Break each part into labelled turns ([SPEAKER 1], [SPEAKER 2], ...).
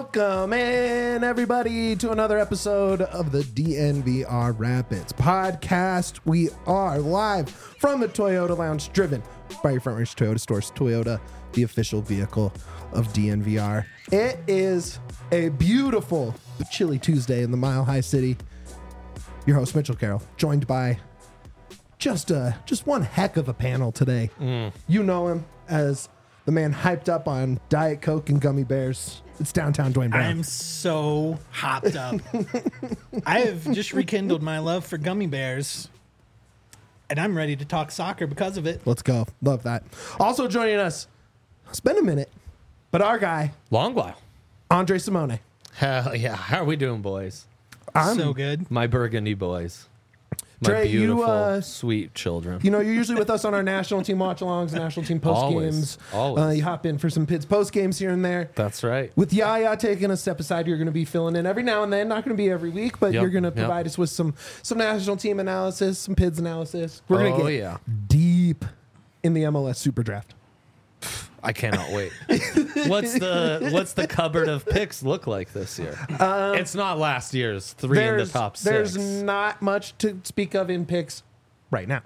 [SPEAKER 1] Welcome in, everybody, to another episode of the DNVR Rapids podcast. We are live from the Toyota Lounge, driven by your Front Range Toyota stores. Toyota, the official vehicle of DNVR. It is a beautiful but chilly Tuesday in the Mile High City. Your host, Mitchell Carroll, joined by just one heck of a panel today. You know him as the man hyped up on Diet Coke and gummy bears. It's downtown Dwayne Brown.
[SPEAKER 2] I'm so hopped up. I have just rekindled my love for gummy bears, and I'm ready to talk soccer because of it.
[SPEAKER 1] Let's go. Love that. Also joining us, it's been a minute, but our guy,
[SPEAKER 3] Long while.
[SPEAKER 1] Andre Simone.
[SPEAKER 3] Hell yeah. How are we doing, boys?
[SPEAKER 2] So good.
[SPEAKER 3] My burgundy boys. My
[SPEAKER 1] Trey,
[SPEAKER 3] beautiful, sweet children.
[SPEAKER 1] You know, you're usually with us on our national team watch-alongs, national team post-games.
[SPEAKER 3] Always.
[SPEAKER 1] You hop in for some Pids post-games here and there.
[SPEAKER 3] That's right.
[SPEAKER 1] With Yaya taking a step aside, you're going to be filling in every now and then. Not going to be every week, but
[SPEAKER 3] Yep,
[SPEAKER 1] you're going to
[SPEAKER 3] yep.
[SPEAKER 1] provide us with some national team analysis, some Pids analysis. We're going to get deep in the MLS Super Draft.
[SPEAKER 3] I cannot wait. What's the cupboard of picks look like this year? It's not last year's three in the top six.
[SPEAKER 1] There's not much to speak of in picks right now.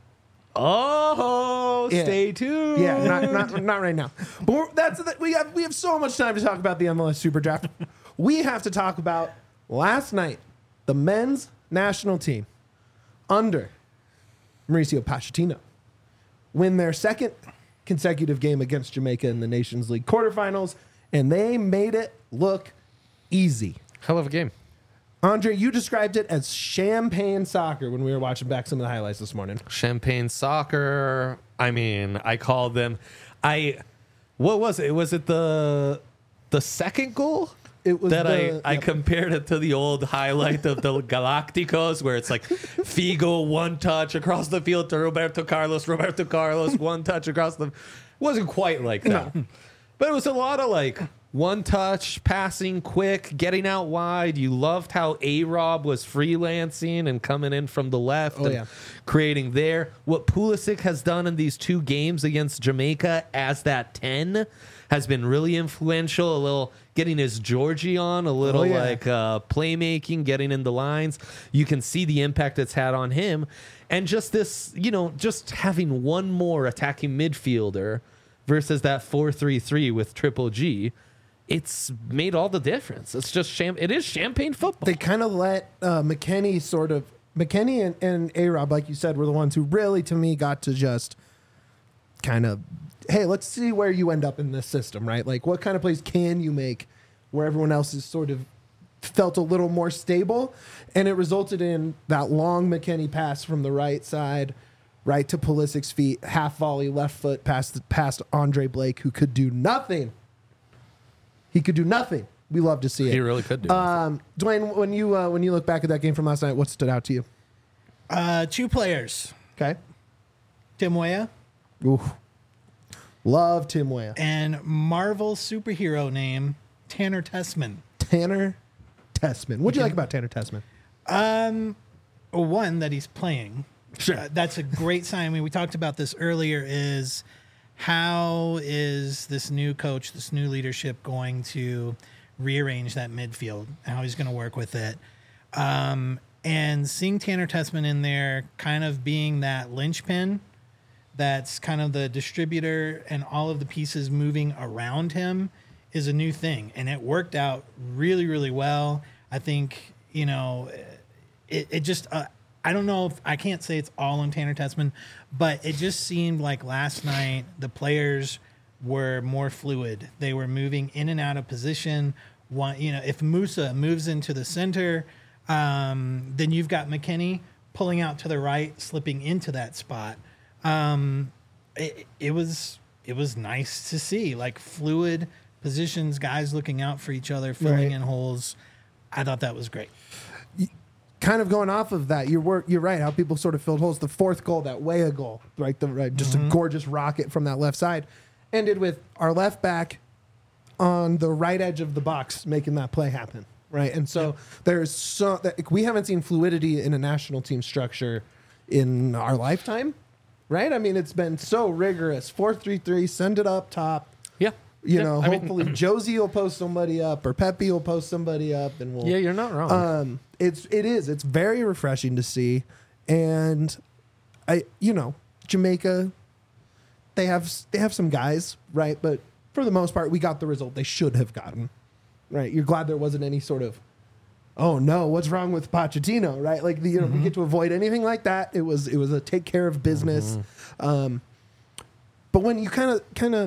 [SPEAKER 3] Oh,
[SPEAKER 1] Yeah.
[SPEAKER 3] stay tuned.
[SPEAKER 1] Yeah, not right now. But we have so much time to talk about the MLS Super Draft. We have to talk about last night, the men's national team under Mauricio Pochettino win their second consecutive game against Jamaica in the Nations League quarterfinals, and they made it look easy.
[SPEAKER 3] Hell of a game.
[SPEAKER 1] Andre, you described it as champagne soccer when we were watching back some of the highlights this morning.
[SPEAKER 3] Champagne soccer. I mean, I called them. What was it? Was it the second goal?
[SPEAKER 1] It was
[SPEAKER 3] that I compared it to the old highlight of the Galacticos, where it's like Figo one touch across the field to Roberto Carlos, one touch across the. Wasn't quite like that, but it was a lot of like one touch passing, quick, getting out wide. You loved how A-Rob was freelancing and coming in from the left and creating there. What Pulisic has done in these two games against Jamaica as that 10 has been really influential. A little getting his Georgie on, a little playmaking, getting in the lines. You can see the impact it's had on him. And just this, just having one more attacking midfielder versus that 4-3-3 with Triple G, it's made all the difference. It's just it is champagne football.
[SPEAKER 1] They kind of let McKennie and A-Rob, like you said, were the ones who really, to me, got to just kind of, hey, let's see where you end up in this system, right? Like, what kind of plays can you make where everyone else is sort of felt a little more stable? And it resulted in that long McKennie pass from the right side, right to Pulisic's feet, half volley, left foot, past Andre Blake, who could do nothing. He could do nothing. We love to see it.
[SPEAKER 3] He really could do.
[SPEAKER 1] Dwayne, when you look back at that game from last night, what stood out to you?
[SPEAKER 2] Two players.
[SPEAKER 1] Okay.
[SPEAKER 2] Tim Weah.
[SPEAKER 1] Ooh. Love Tim Weah.
[SPEAKER 2] And Marvel superhero name, Tanner Tessman.
[SPEAKER 1] Tanner Tessman. What'd you like about Tanner Tessman?
[SPEAKER 2] One, that he's playing.
[SPEAKER 1] Sure.
[SPEAKER 2] That's a great sign. I mean, we talked about this earlier, is how is this new coach, this new leadership going to rearrange that midfield, how he's going to work with it. And seeing Tanner Tessman in there kind of being that linchpin, that's kind of the distributor and all of the pieces moving around him, is a new thing. And it worked out really, really well. I think, it just, I don't know if I can't say it's all on Tanner Tessman, but it just seemed like last night the players were more fluid. They were moving in and out of position. If Musa moves into the center, then you've got McKennie pulling out to the right, slipping into that spot. It was nice to see, like, fluid positions, guys looking out for each other, filling in holes. I thought that was great.
[SPEAKER 1] Kind of going off of that, you're right. How people sort of filled holes. The fourth goal, that Weah goal, right? Just a gorgeous rocket from that left side, ended with our left back on the right edge of the box making that play happen, right? And so we haven't seen fluidity in a national team structure in our lifetime, right? I mean, it's been so rigorous. 4-3-3, send it up top.
[SPEAKER 3] Yeah.
[SPEAKER 1] Hopefully Josie will post somebody up or Pepe will post somebody up, and we'll.
[SPEAKER 3] Yeah, you're not wrong.
[SPEAKER 1] It's very refreshing to see, and Jamaica, they have some guys, right? But for the most part, we got the result they should have gotten, right? You're glad there wasn't any sort of, oh no, what's wrong with Pochettino, right? Like we get to avoid anything like that. It was a take care of business. But when you kind of,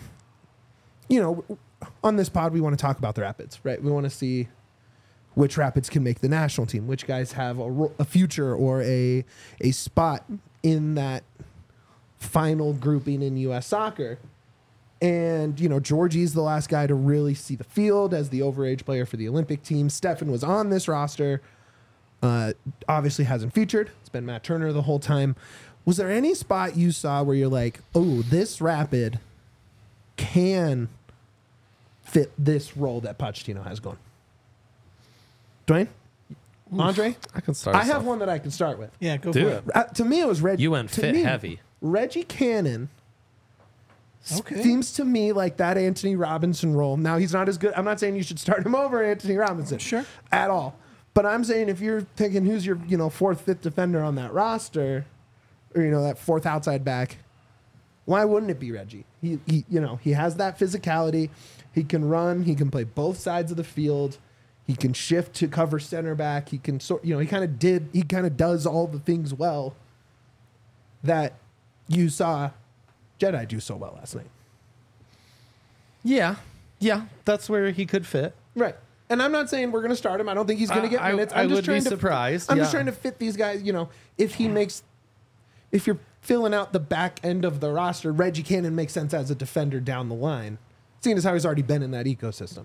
[SPEAKER 1] on this pod, we want to talk about the Rapids, right? We want to see which Rapids can make the national team, which guys have a future or a spot in that final grouping in U.S. soccer. And, Georgie's the last guy to really see the field as the overage player for the Olympic team. Stefan was on this roster. Obviously hasn't featured. It's been Matt Turner the whole time. Was there any spot you saw where you're like, oh, this Rapid can fit this role that Pochettino has going? Dwayne? Andre?
[SPEAKER 3] I can start.
[SPEAKER 1] I have one that I can start with.
[SPEAKER 2] Yeah, go
[SPEAKER 3] Do
[SPEAKER 2] for
[SPEAKER 3] it.
[SPEAKER 2] it.
[SPEAKER 1] To me, it was Reggie.
[SPEAKER 3] You went fit heavy.
[SPEAKER 1] Reggie Cannon
[SPEAKER 2] Okay.
[SPEAKER 1] seems to me like that Anthony Robinson role. Now, he's not as good. I'm not saying you should start him over Anthony Robinson.
[SPEAKER 2] Sure.
[SPEAKER 1] At all. But I'm saying if you're thinking who's your, fourth, fifth defender on that roster, or, that fourth outside back, why wouldn't it be Reggie? He has that physicality. He can run. He can play both sides of the field. He can shift to cover center back. He can he kind of does all the things well that you saw Jedi do so well last night.
[SPEAKER 3] Yeah, that's where he could fit.
[SPEAKER 1] Right. And I'm not saying we're going to start him. I don't think he's going to get minutes.
[SPEAKER 3] I would be surprised.
[SPEAKER 1] I'm just trying to fit these guys. If you're filling out the back end of the roster, Reggie Cannon makes sense as a defender down the line, seeing as how he's already been in that ecosystem.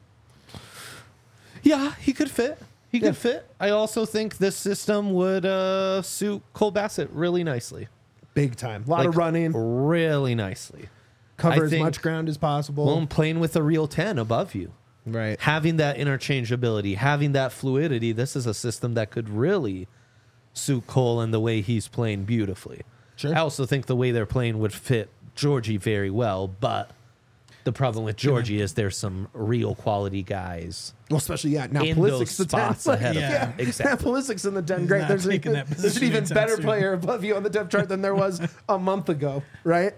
[SPEAKER 3] Yeah, he could fit. He could fit. I also think this system would suit Cole Bassett really nicely.
[SPEAKER 1] Big time. A lot of running.
[SPEAKER 3] Really nicely.
[SPEAKER 1] Cover as much ground as possible.
[SPEAKER 3] Well, playing with a real 10 above you.
[SPEAKER 1] Right.
[SPEAKER 3] Having that interchangeability, having that fluidity, this is a system that could really suit Cole and the way he's playing beautifully.
[SPEAKER 1] Sure.
[SPEAKER 3] I also think the way they're playing would fit Georgie very well, but the problem with Georgie is there's some real quality guys.
[SPEAKER 1] Well, especially, now
[SPEAKER 3] in
[SPEAKER 1] Pulisic's
[SPEAKER 3] those
[SPEAKER 1] the 10.
[SPEAKER 3] spots ahead of him.
[SPEAKER 1] Exactly. Now Pulisic's in the 10. Great.
[SPEAKER 2] not
[SPEAKER 1] There's
[SPEAKER 2] taking that
[SPEAKER 1] an
[SPEAKER 2] position
[SPEAKER 1] even
[SPEAKER 2] anytime
[SPEAKER 1] better
[SPEAKER 2] soon.
[SPEAKER 1] player above you on the depth chart than there was a month ago, right?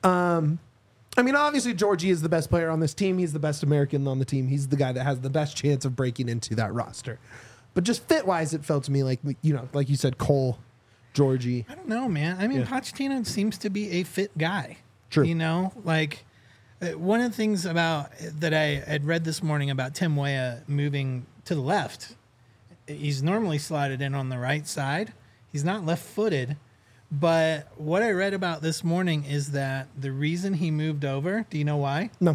[SPEAKER 1] Obviously, Georgie is the best player on this team. He's the best American on the team. He's the guy that has the best chance of breaking into that roster. But just fit-wise, it felt to me like, like you said, Cole, Georgie.
[SPEAKER 2] I don't know, man. Pochettino seems to be a fit guy.
[SPEAKER 1] True.
[SPEAKER 2] One of the things that I had read this morning about Tim Weah moving to the left, he's normally slotted in on the right side. He's not left-footed. But what I read about this morning is that the reason he moved over, do you know why?
[SPEAKER 1] No.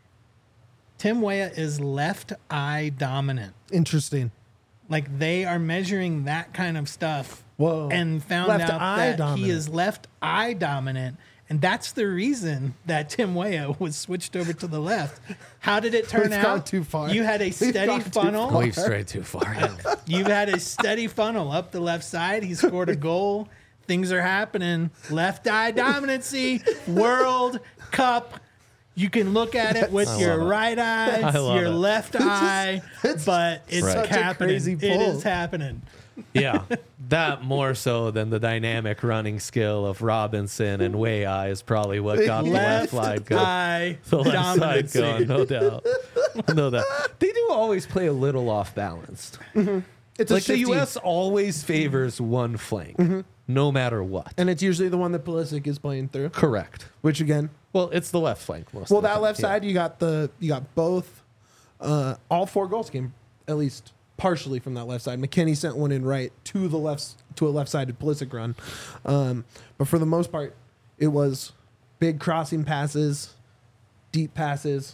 [SPEAKER 2] Tim Weah is left eye dominant.
[SPEAKER 1] Interesting.
[SPEAKER 2] Like they are measuring that kind of stuff.
[SPEAKER 1] Whoa.
[SPEAKER 2] And found
[SPEAKER 1] Left
[SPEAKER 2] out
[SPEAKER 1] eye
[SPEAKER 2] that
[SPEAKER 1] dominant.
[SPEAKER 2] he is left eye dominant. And that's the reason that Tim Weah was switched over to the left. How did it turn
[SPEAKER 1] We've
[SPEAKER 2] out?
[SPEAKER 1] gone too far.
[SPEAKER 2] You had a
[SPEAKER 1] We've
[SPEAKER 2] steady
[SPEAKER 1] gone too
[SPEAKER 2] funnel.
[SPEAKER 1] far.
[SPEAKER 3] We've strayed too far.
[SPEAKER 2] You've had a steady funnel up the left side. He scored a goal. Things are happening. Left eye dominancy. World Cup. You can look at it with your right eye,
[SPEAKER 3] I love
[SPEAKER 2] your
[SPEAKER 3] it.
[SPEAKER 2] left eye, but it's
[SPEAKER 3] Right.
[SPEAKER 1] Such a
[SPEAKER 2] happening.
[SPEAKER 1] crazy
[SPEAKER 2] It
[SPEAKER 1] pull.
[SPEAKER 2] is happening.
[SPEAKER 3] Yeah, that more so than the dynamic running skill of Robinson and Weah is probably what got the left side going.
[SPEAKER 2] eye
[SPEAKER 3] The left side
[SPEAKER 2] dominancy.
[SPEAKER 3] going, no doubt. No doubt. They do always play a little off balanced.
[SPEAKER 1] It's
[SPEAKER 3] Like
[SPEAKER 1] a
[SPEAKER 3] the
[SPEAKER 1] shifty,
[SPEAKER 3] U.S. always favors one flank, no matter what.
[SPEAKER 1] and it's usually the one that Pulisic is playing through.
[SPEAKER 3] Correct.
[SPEAKER 1] Which again,
[SPEAKER 3] Well, it's the left flank most.
[SPEAKER 1] well,
[SPEAKER 3] of the
[SPEAKER 1] that
[SPEAKER 3] time,
[SPEAKER 1] left
[SPEAKER 3] yeah.
[SPEAKER 1] side, you got both. All 4 goals came at least partially from that left side. McKennie sent one in right to a left-sided Pulisic run, but for the most part, it was big crossing passes, deep passes,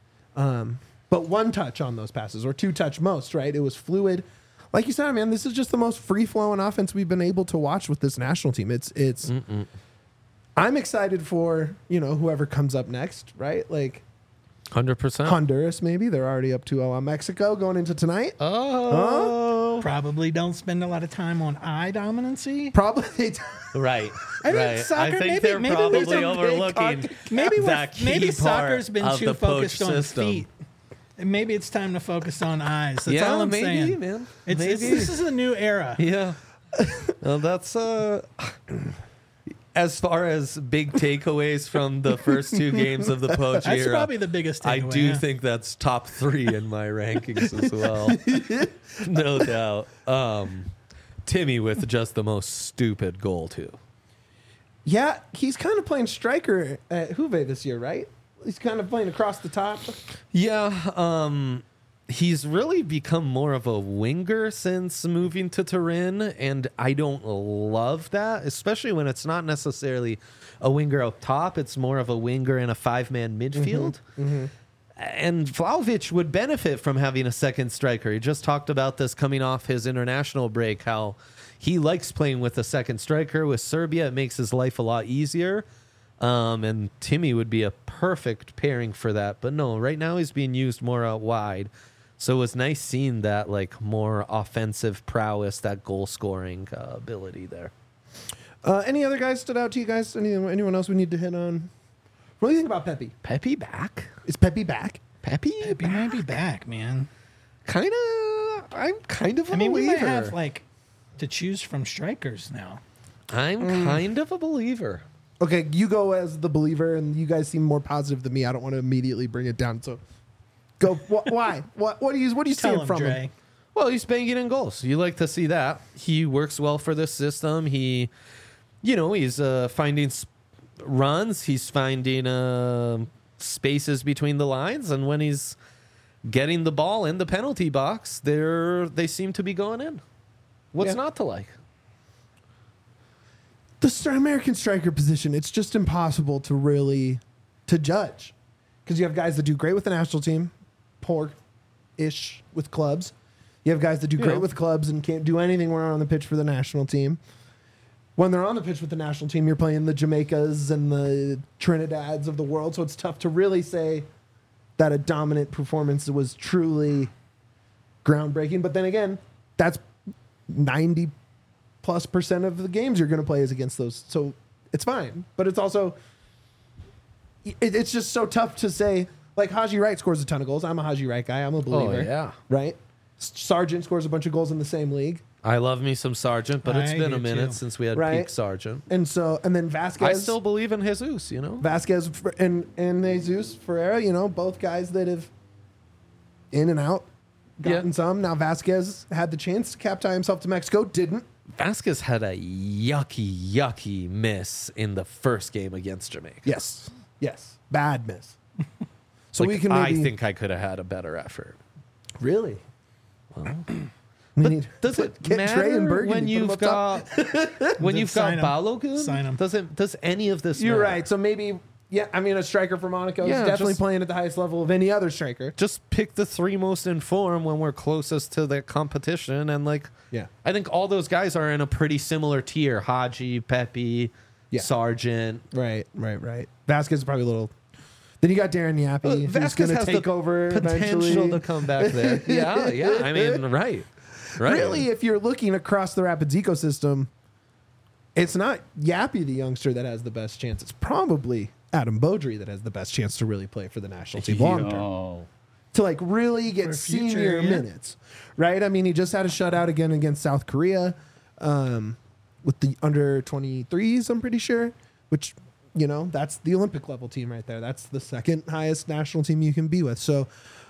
[SPEAKER 1] but one touch on those passes or 2 touch most. Right, it was fluid. Like you said, man, this is just the most free-flowing offense we've been able to watch with this national team. It's. I'm excited for whoever comes up next. Right, like.
[SPEAKER 3] 100%.
[SPEAKER 1] Honduras, maybe. They're already up 2-0 on Mexico going into tonight.
[SPEAKER 3] Oh,
[SPEAKER 1] so.
[SPEAKER 2] Probably don't spend a lot of time on eye dominancy.
[SPEAKER 1] Probably.
[SPEAKER 3] Right.
[SPEAKER 2] I think
[SPEAKER 3] right.
[SPEAKER 2] soccer,
[SPEAKER 3] I think
[SPEAKER 2] maybe-
[SPEAKER 3] they're
[SPEAKER 2] maybe
[SPEAKER 3] probably
[SPEAKER 2] there's a big
[SPEAKER 3] overlooking that key
[SPEAKER 2] maybe
[SPEAKER 3] part
[SPEAKER 2] soccer's been
[SPEAKER 3] of
[SPEAKER 2] too
[SPEAKER 3] the poach
[SPEAKER 2] focused on
[SPEAKER 3] system.
[SPEAKER 2] feet. And maybe it's time to focus on eyes. That's
[SPEAKER 3] Yeah,
[SPEAKER 2] all I'm
[SPEAKER 3] maybe,
[SPEAKER 2] saying.
[SPEAKER 3] man.
[SPEAKER 2] This is a new era.
[SPEAKER 3] Yeah. Well, that's as far as big takeaways from the first two games of the poach
[SPEAKER 2] That's
[SPEAKER 3] era.
[SPEAKER 2] probably the biggest
[SPEAKER 3] I
[SPEAKER 2] takeaway.
[SPEAKER 3] do
[SPEAKER 2] yeah.
[SPEAKER 3] think that's top 3 in my rankings as well. No doubt. Timmy with just the most stupid goal too.
[SPEAKER 1] Yeah, he's kind of playing striker at Juve this year, right? He's kind of playing across the top.
[SPEAKER 3] Yeah, he's really become more of a winger since moving to Turin, and I don't love that, especially when it's not necessarily a winger up top. It's more of a winger in a 5-man midfield. And Vlahovic would benefit from having a second striker. He just talked about this coming off his international break, how he likes playing with a second striker. With Serbia, it makes his life a lot easier. And Timmy would be a perfect pairing for that. But no, right now he's being used more out wide. So it was nice seeing that like more offensive prowess, that goal scoring ability there.
[SPEAKER 1] Any other guys stood out to you guys? Anyone else we need to hit on? What do you think about Pepe?
[SPEAKER 3] Pepe back?
[SPEAKER 1] Is Pepe back?
[SPEAKER 3] Pepe
[SPEAKER 2] He might be back, man.
[SPEAKER 3] I'm kind of a
[SPEAKER 2] I mean, we
[SPEAKER 3] believer.
[SPEAKER 2] might have like to choose from strikers now.
[SPEAKER 3] I'm kind of a believer.
[SPEAKER 1] Okay, you go as the believer, and you guys seem more positive than me. I don't want to immediately bring it down. So, go. Why? What are you
[SPEAKER 2] Tell
[SPEAKER 1] seeing
[SPEAKER 2] him,
[SPEAKER 1] from
[SPEAKER 2] Dre.
[SPEAKER 1] him?
[SPEAKER 3] Well, he's banging in goals. You like to see that. He works well for this system. He's finding runs. He's finding spaces between the lines, and when he's getting the ball in the penalty box, they seem to be going in. What's
[SPEAKER 1] Yeah.
[SPEAKER 3] not to like?
[SPEAKER 1] The American striker position, it's just impossible to judge, because you have guys that do great with the national team, poor-ish with clubs. You have guys that do great
[SPEAKER 3] Yeah.
[SPEAKER 1] with clubs and can't do anything when they're on the pitch for the national team. When they're on the pitch with the national team, you're playing the Jamaicas and the Trinidads of the world, so it's tough to really say that a dominant performance was truly groundbreaking. But then again, that's 90+% of the games you're going to play is against those, so it's fine. But it's also it's just so tough to say. Like Haji Wright scores a ton of goals. I'm a Haji Wright guy. I'm a believer.
[SPEAKER 3] Oh, yeah.
[SPEAKER 1] Right. Sargent scores a bunch of goals in the same league,
[SPEAKER 3] I love me some Sargent, but it's
[SPEAKER 2] I
[SPEAKER 3] been
[SPEAKER 2] do
[SPEAKER 3] a minute
[SPEAKER 2] too.
[SPEAKER 3] since we had
[SPEAKER 1] Right.
[SPEAKER 3] peak Sargent.
[SPEAKER 1] and then Vasquez.
[SPEAKER 3] I still believe in Jesus,
[SPEAKER 1] Vasquez and Jesus Ferreira. Both guys that have in and out gotten some. Now Vasquez had the chance to cap tie himself to Mexico, didn't.
[SPEAKER 3] Vasquez had a yucky miss in the first game against Jamaica.
[SPEAKER 1] Yes. Bad miss. So
[SPEAKER 3] Like,
[SPEAKER 1] we can maybe
[SPEAKER 3] I think I could have had a better effort.
[SPEAKER 1] really.
[SPEAKER 3] But
[SPEAKER 1] need
[SPEAKER 3] does
[SPEAKER 1] put-
[SPEAKER 3] it
[SPEAKER 1] get
[SPEAKER 3] matter
[SPEAKER 1] Trey and Bergen,
[SPEAKER 3] when
[SPEAKER 1] put 'em
[SPEAKER 3] you've
[SPEAKER 1] up top?
[SPEAKER 3] got when you've got
[SPEAKER 2] Sign 'em.
[SPEAKER 3] Balogun?
[SPEAKER 2] Sign 'em.
[SPEAKER 3] Does any of this
[SPEAKER 1] You're
[SPEAKER 3] matter?
[SPEAKER 1] right. So maybe, yeah. I mean, a striker for Monaco
[SPEAKER 3] Yeah,
[SPEAKER 1] is definitely
[SPEAKER 3] just-
[SPEAKER 1] playing at the highest level of any other striker.
[SPEAKER 3] Just pick the 3 most in form when we're closest to the competition, and
[SPEAKER 1] Yeah.
[SPEAKER 3] I think all those guys are in a pretty similar tier. Haji, Pepe,
[SPEAKER 1] Yeah.
[SPEAKER 3] Sargent.
[SPEAKER 1] Right. Vasquez is probably a little. Then you got Darren Yappy, who's
[SPEAKER 3] Vasquez
[SPEAKER 1] going to
[SPEAKER 3] has
[SPEAKER 1] take
[SPEAKER 3] the
[SPEAKER 1] over
[SPEAKER 3] potential
[SPEAKER 1] eventually.
[SPEAKER 3] to come back there. yeah. I mean, right.
[SPEAKER 1] Really, if you're looking across the Rapids ecosystem, it's not Yappy, the youngster, that has the best chance. It's probably Adam Beaudry that has the best chance to really play for the national team long term. To really get
[SPEAKER 2] For future,
[SPEAKER 1] senior
[SPEAKER 2] yeah.
[SPEAKER 1] minutes, right? I mean, he just had a shutout again against South Korea with the under 23s, I'm pretty sure, which, that's the Olympic level team right there. That's the second highest national team you can be with. So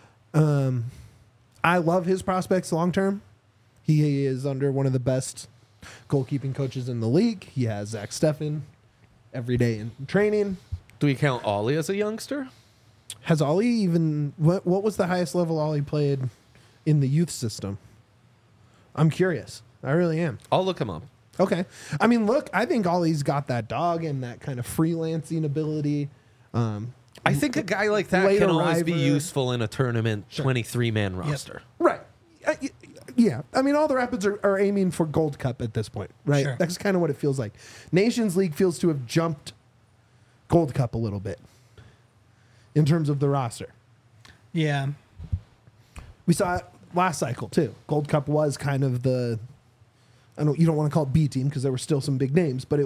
[SPEAKER 1] I love his prospects long term. He is under one of the best goalkeeping coaches in the league. He has Zach Steffen every day in training.
[SPEAKER 3] Do we count Ollie as a youngster?
[SPEAKER 1] Has Ollie even what was the highest level Ollie played in the youth system? I'm curious. I really am.
[SPEAKER 3] I'll look him up.
[SPEAKER 1] Okay. I mean, look, I think Ollie's got that dog and that kind of freelancing ability.
[SPEAKER 3] I think a guy like that
[SPEAKER 1] Late
[SPEAKER 3] can always be
[SPEAKER 1] arriver.
[SPEAKER 3] useful in a tournament 23-man roster.
[SPEAKER 1] Right. Yeah. I mean, all the Rapids are aiming for Gold Cup at this point, right?
[SPEAKER 2] Sure.
[SPEAKER 1] That's kind of what it feels like. Nations League feels to have jumped Gold Cup a little bit in terms of the roster.
[SPEAKER 2] Yeah.
[SPEAKER 1] We saw last cycle too. Gold Cup was kind of the, you don't want to call it B team because there were still some big names, but it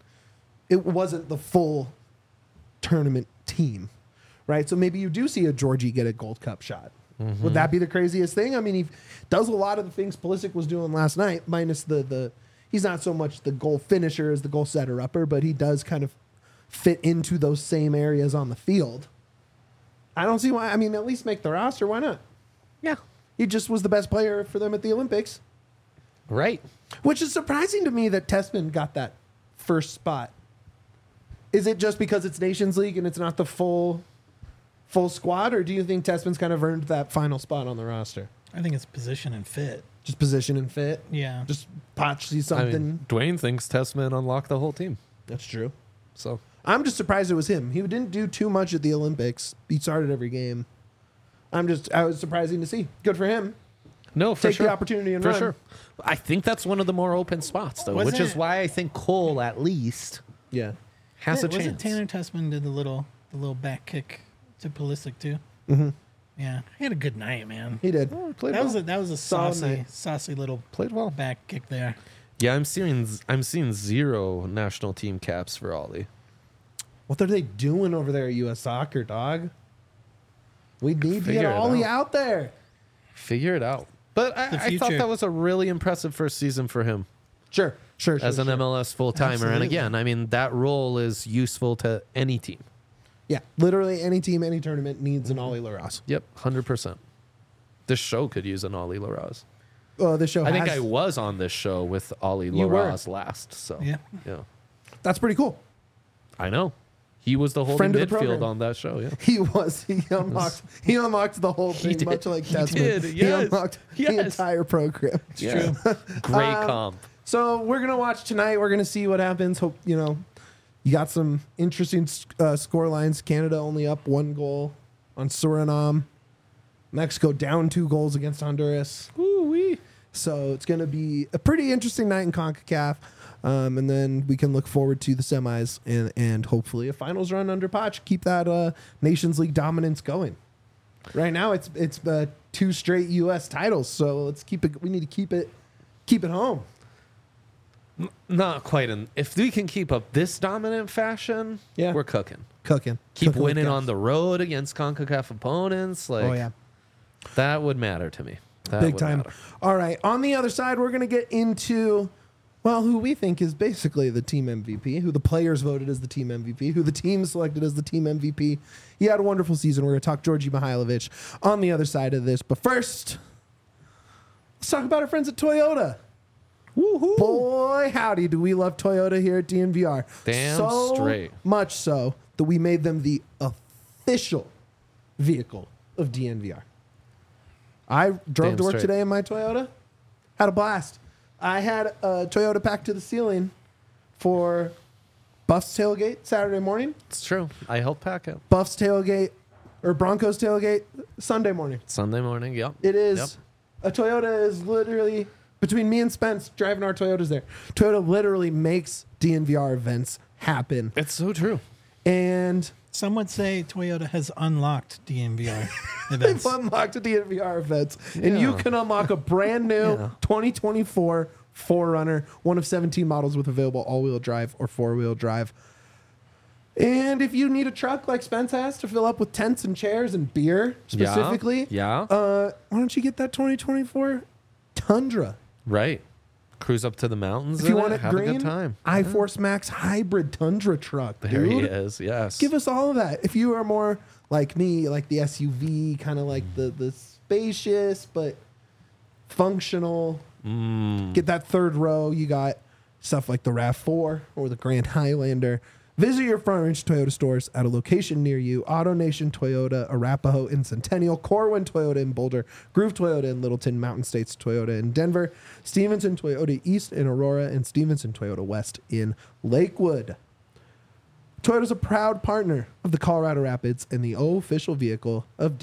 [SPEAKER 1] wasn't the full tournament team, right? So maybe you do see a Georgie get a Gold Cup shot. Would that be the craziest thing? I mean, he does a lot of the things Pulisic was doing last night, minus the he's not so much the goal finisher as the goal setter upper, but he does kind of fit into those same areas on the field. I don't see why. I mean, at least make the roster. Why not?
[SPEAKER 3] Yeah.
[SPEAKER 1] He just was the best player for them at the Olympics,
[SPEAKER 3] Right.
[SPEAKER 1] which is surprising to me that Tessman got that first spot. Is it just because it's Nations League and it's not the full squad, or do you think Tessman's kind of earned that final spot on the roster?
[SPEAKER 2] I think it's position and fit.
[SPEAKER 1] Just position and fit?
[SPEAKER 2] Yeah.
[SPEAKER 1] Just Poch sees
[SPEAKER 3] I
[SPEAKER 1] something.
[SPEAKER 3] mean, Dwayne thinks Tessman unlocked the whole team.
[SPEAKER 1] That's true.
[SPEAKER 3] So
[SPEAKER 1] I'm just surprised it was him. He didn't do too much at the Olympics. He started every game. I was surprising to see. Good for him.
[SPEAKER 3] no, for
[SPEAKER 1] Take
[SPEAKER 3] sure.
[SPEAKER 1] the opportunity and
[SPEAKER 3] for
[SPEAKER 1] run.
[SPEAKER 3] sure. I think that's one of the more open spots, though,
[SPEAKER 2] Wasn't
[SPEAKER 3] which is
[SPEAKER 2] it-
[SPEAKER 3] why I think Cole at least
[SPEAKER 1] Yeah.
[SPEAKER 3] has a
[SPEAKER 2] Was it
[SPEAKER 3] chance.
[SPEAKER 2] Tanner Tessman did the little back kick to Pulisic too?
[SPEAKER 1] Mm-hmm.
[SPEAKER 2] Yeah, he had a good night, man.
[SPEAKER 1] He did.
[SPEAKER 3] Oh, played
[SPEAKER 2] That
[SPEAKER 3] well.
[SPEAKER 2] was a
[SPEAKER 1] Solid night.
[SPEAKER 2] saucy little
[SPEAKER 3] Played well.
[SPEAKER 2] back kick there.
[SPEAKER 3] Yeah, I'm seeing 0 national team caps for Ollie.
[SPEAKER 1] What are they doing over there at U.S. Soccer, dog? We need to get
[SPEAKER 3] Figure it
[SPEAKER 1] Ollie
[SPEAKER 3] out.
[SPEAKER 1] out there.
[SPEAKER 3] Figure it out. But
[SPEAKER 2] The
[SPEAKER 3] I thought
[SPEAKER 2] future.
[SPEAKER 3] that was a really impressive first season for him
[SPEAKER 1] Sure.
[SPEAKER 3] as an MLS full timer. And
[SPEAKER 2] Absolutely.
[SPEAKER 3] again, I mean, that role is useful to any team.
[SPEAKER 1] Yeah, literally any team, any tournament needs an Ollie Laros.
[SPEAKER 3] Yep, 100%. This show could use an Ollie Laraz.
[SPEAKER 1] The show
[SPEAKER 3] I think
[SPEAKER 1] has-
[SPEAKER 3] I was on this show with Ollie
[SPEAKER 1] You were.
[SPEAKER 3] Laraz last. So
[SPEAKER 2] Yeah.
[SPEAKER 1] That's pretty cool.
[SPEAKER 3] I know. He was the holding
[SPEAKER 1] Friend of the
[SPEAKER 3] midfield
[SPEAKER 1] program.
[SPEAKER 3] on that show. Yeah.
[SPEAKER 1] He unlocked the whole
[SPEAKER 3] He
[SPEAKER 1] thing,
[SPEAKER 3] did.
[SPEAKER 1] much like
[SPEAKER 3] He
[SPEAKER 1] Tessman.
[SPEAKER 3] did,
[SPEAKER 1] He
[SPEAKER 3] yes.
[SPEAKER 1] unlocked the
[SPEAKER 3] Yes.
[SPEAKER 1] entire program.
[SPEAKER 3] Yeah. Great comp.
[SPEAKER 1] So we're gonna watch tonight. We're gonna see what happens. Hope you got some interesting score lines. Canada only up 1 goal on Suriname. Mexico down 2 goals against Honduras.
[SPEAKER 3] Ooh-wee.
[SPEAKER 1] So it's gonna be a pretty interesting night in CONCACAF. And then we can look forward to the semis and hopefully a finals run under Poch. Keep that Nations League dominance going. Right now it's 2 straight U.S. titles, so let's keep it. We need to keep it home.
[SPEAKER 3] Not quite. If we can keep up this dominant fashion,
[SPEAKER 1] Yeah.
[SPEAKER 3] we're cooking.
[SPEAKER 1] Cooking.
[SPEAKER 3] Keep
[SPEAKER 1] Cooking with
[SPEAKER 3] winning
[SPEAKER 1] gas.
[SPEAKER 3] on the road against CONCACAF opponents. Like,
[SPEAKER 1] Oh yeah,
[SPEAKER 3] that would matter to me. That
[SPEAKER 1] big
[SPEAKER 3] would
[SPEAKER 1] time.
[SPEAKER 3] matter.
[SPEAKER 1] All right, on the other side, we're gonna get into who we think is basically the team MVP, who the players voted as the team MVP, who the team selected as the team MVP. He had a wonderful season. We're gonna talk Georgi Mihailovic on the other side of this, but first, let's talk about our friends at Toyota.
[SPEAKER 3] Woohoo!
[SPEAKER 1] Boy, howdy, do we love Toyota here at DNVR.
[SPEAKER 3] Damn
[SPEAKER 1] so
[SPEAKER 3] straight.
[SPEAKER 1] much so that we made them the official vehicle of DNVR. I drove
[SPEAKER 3] Damn
[SPEAKER 1] to work
[SPEAKER 3] straight.
[SPEAKER 1] today in my Toyota. Had a blast. I had a Toyota packed to the ceiling for Buffs tailgate Saturday morning,
[SPEAKER 3] It's true. I helped pack it
[SPEAKER 1] Buffs tailgate or Broncos tailgate Sunday morning.
[SPEAKER 3] Sunday morning. Yep.
[SPEAKER 1] It is
[SPEAKER 3] Yep.
[SPEAKER 1] a Toyota is literally between me and Spence driving our Toyotas there. Toyota literally makes DNVR events happen.
[SPEAKER 3] It's so true.
[SPEAKER 1] And
[SPEAKER 2] Some would say Toyota has unlocked DNVR
[SPEAKER 1] they've
[SPEAKER 2] events.
[SPEAKER 1] unlocked DNVR events. And you
[SPEAKER 3] Yeah.
[SPEAKER 1] can unlock a brand new
[SPEAKER 3] Yeah.
[SPEAKER 1] 2024 4Runner, one of 17 models with available all-wheel drive or four-wheel drive. And if you need a truck like Spence has to fill up with tents and chairs and beer specifically,
[SPEAKER 3] Yeah.
[SPEAKER 1] why don't you get that 2024 Tundra?
[SPEAKER 3] Right. Cruise up to the mountains.
[SPEAKER 1] If you
[SPEAKER 3] in
[SPEAKER 1] want it
[SPEAKER 3] have
[SPEAKER 1] green,
[SPEAKER 3] a good time.
[SPEAKER 1] iForce Max hybrid Tundra truck,
[SPEAKER 3] There
[SPEAKER 1] dude.
[SPEAKER 3] he is. Yes.
[SPEAKER 1] Give us all of that. If you are more like me, like the SUV, kind of like the spacious but functional, get that third row. You got stuff like the RAV4 or the Grand Highlander. Visit your Front Range Toyota stores at a location near you. AutoNation Toyota, Arapahoe in Centennial, Corwin Toyota in Boulder, Groove Toyota in Littleton, Mountain States Toyota in Denver, Stevenson Toyota East in Aurora, and Stevenson Toyota West in Lakewood. Toyota's a proud partner of the Colorado Rapids and the official vehicle of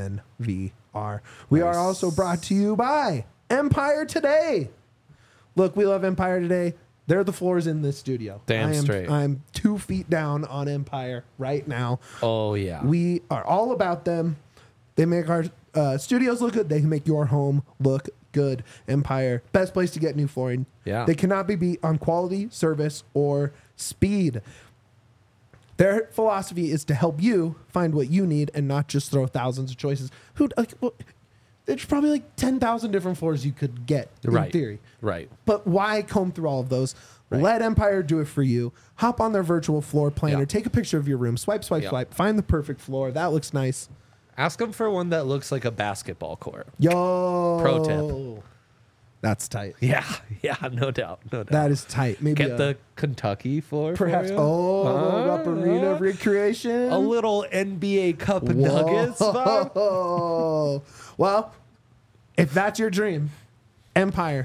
[SPEAKER 1] DNVR. We are also brought to you by Empire Today. Look, we love Empire Today. They're the floors in this studio.
[SPEAKER 3] Damn straight.
[SPEAKER 1] I'm 2 feet down on Empire right now.
[SPEAKER 3] Oh, yeah.
[SPEAKER 1] We are all about them. They make our studios look good. They make your home look good. Empire, best place to get new flooring.
[SPEAKER 3] Yeah.
[SPEAKER 1] They cannot be beat on quality, service, or speed. Their philosophy is to help you find what you need and not just throw thousands of choices. There's probably like 10,000 different floors you could get in theory.
[SPEAKER 3] Right.
[SPEAKER 1] But why comb through all of those?
[SPEAKER 3] Right.
[SPEAKER 1] Let Empire do it for you. Hop on their virtual floor planner.
[SPEAKER 3] Yeah.
[SPEAKER 1] Take a picture of your room. Swipe, swipe,
[SPEAKER 3] Yeah.
[SPEAKER 1] swipe. Find the perfect floor. That looks nice.
[SPEAKER 3] Ask them for one that looks like a basketball court.
[SPEAKER 1] Yo.
[SPEAKER 3] Pro tip.
[SPEAKER 1] That's tight.
[SPEAKER 3] Yeah, no doubt.
[SPEAKER 1] That is tight. Maybe
[SPEAKER 3] Get the Kentucky floor.
[SPEAKER 1] perhaps.
[SPEAKER 3] For you.
[SPEAKER 1] Up arena recreation.
[SPEAKER 3] A little NBA Cup Nuggets vibe.
[SPEAKER 1] Whoa. Well, if that's your dream, Empire,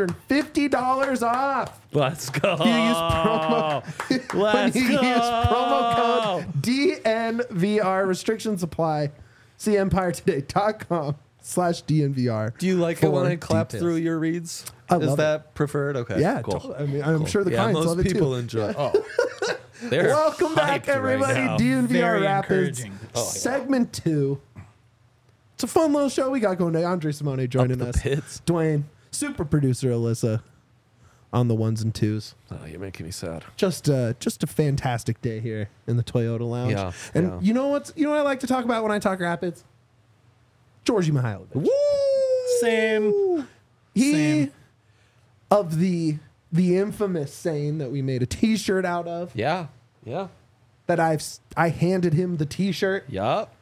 [SPEAKER 1] $350 off.
[SPEAKER 3] Let's go.
[SPEAKER 1] You use promo.
[SPEAKER 3] Let's
[SPEAKER 1] when you
[SPEAKER 3] go.
[SPEAKER 1] use promo code DNVR. Restrictions apply. See EmpireToday.com/DNVR.
[SPEAKER 3] Do you like it when
[SPEAKER 1] for
[SPEAKER 3] I clap
[SPEAKER 1] details.
[SPEAKER 3] through your reads?
[SPEAKER 1] I
[SPEAKER 3] Is
[SPEAKER 1] love
[SPEAKER 3] that preferred? Okay.
[SPEAKER 1] Yeah,
[SPEAKER 3] cool.
[SPEAKER 1] totally. I mean, I'm
[SPEAKER 3] Cool.
[SPEAKER 1] sure the
[SPEAKER 3] Yeah,
[SPEAKER 1] clients
[SPEAKER 3] most
[SPEAKER 1] love it
[SPEAKER 3] people
[SPEAKER 1] too.
[SPEAKER 3] enjoy. Oh, they're
[SPEAKER 1] Welcome back,
[SPEAKER 3] hyped right
[SPEAKER 1] everybody.
[SPEAKER 3] now.
[SPEAKER 1] DNVR
[SPEAKER 2] Very
[SPEAKER 1] Rapids,
[SPEAKER 2] encouraging.
[SPEAKER 3] Oh, yeah.
[SPEAKER 1] segment 2. It's a fun little show we got going today. Andre Simone joining
[SPEAKER 3] the
[SPEAKER 1] us.
[SPEAKER 3] pits.
[SPEAKER 1] Dwayne, super producer Alyssa on the ones and twos.
[SPEAKER 3] Oh, you're making me sad.
[SPEAKER 1] Just a fantastic day here in the Toyota Lounge.
[SPEAKER 3] Yeah,
[SPEAKER 1] and
[SPEAKER 3] yeah.
[SPEAKER 1] you know what I like to talk about when I talk Rapids? Georgie Mihailovic.
[SPEAKER 3] Woo!
[SPEAKER 2] Same.
[SPEAKER 1] He
[SPEAKER 2] Same.
[SPEAKER 1] of the infamous saying that we made a T-shirt out of.
[SPEAKER 3] Yeah.
[SPEAKER 1] That I handed him the T-shirt.
[SPEAKER 3] Yup.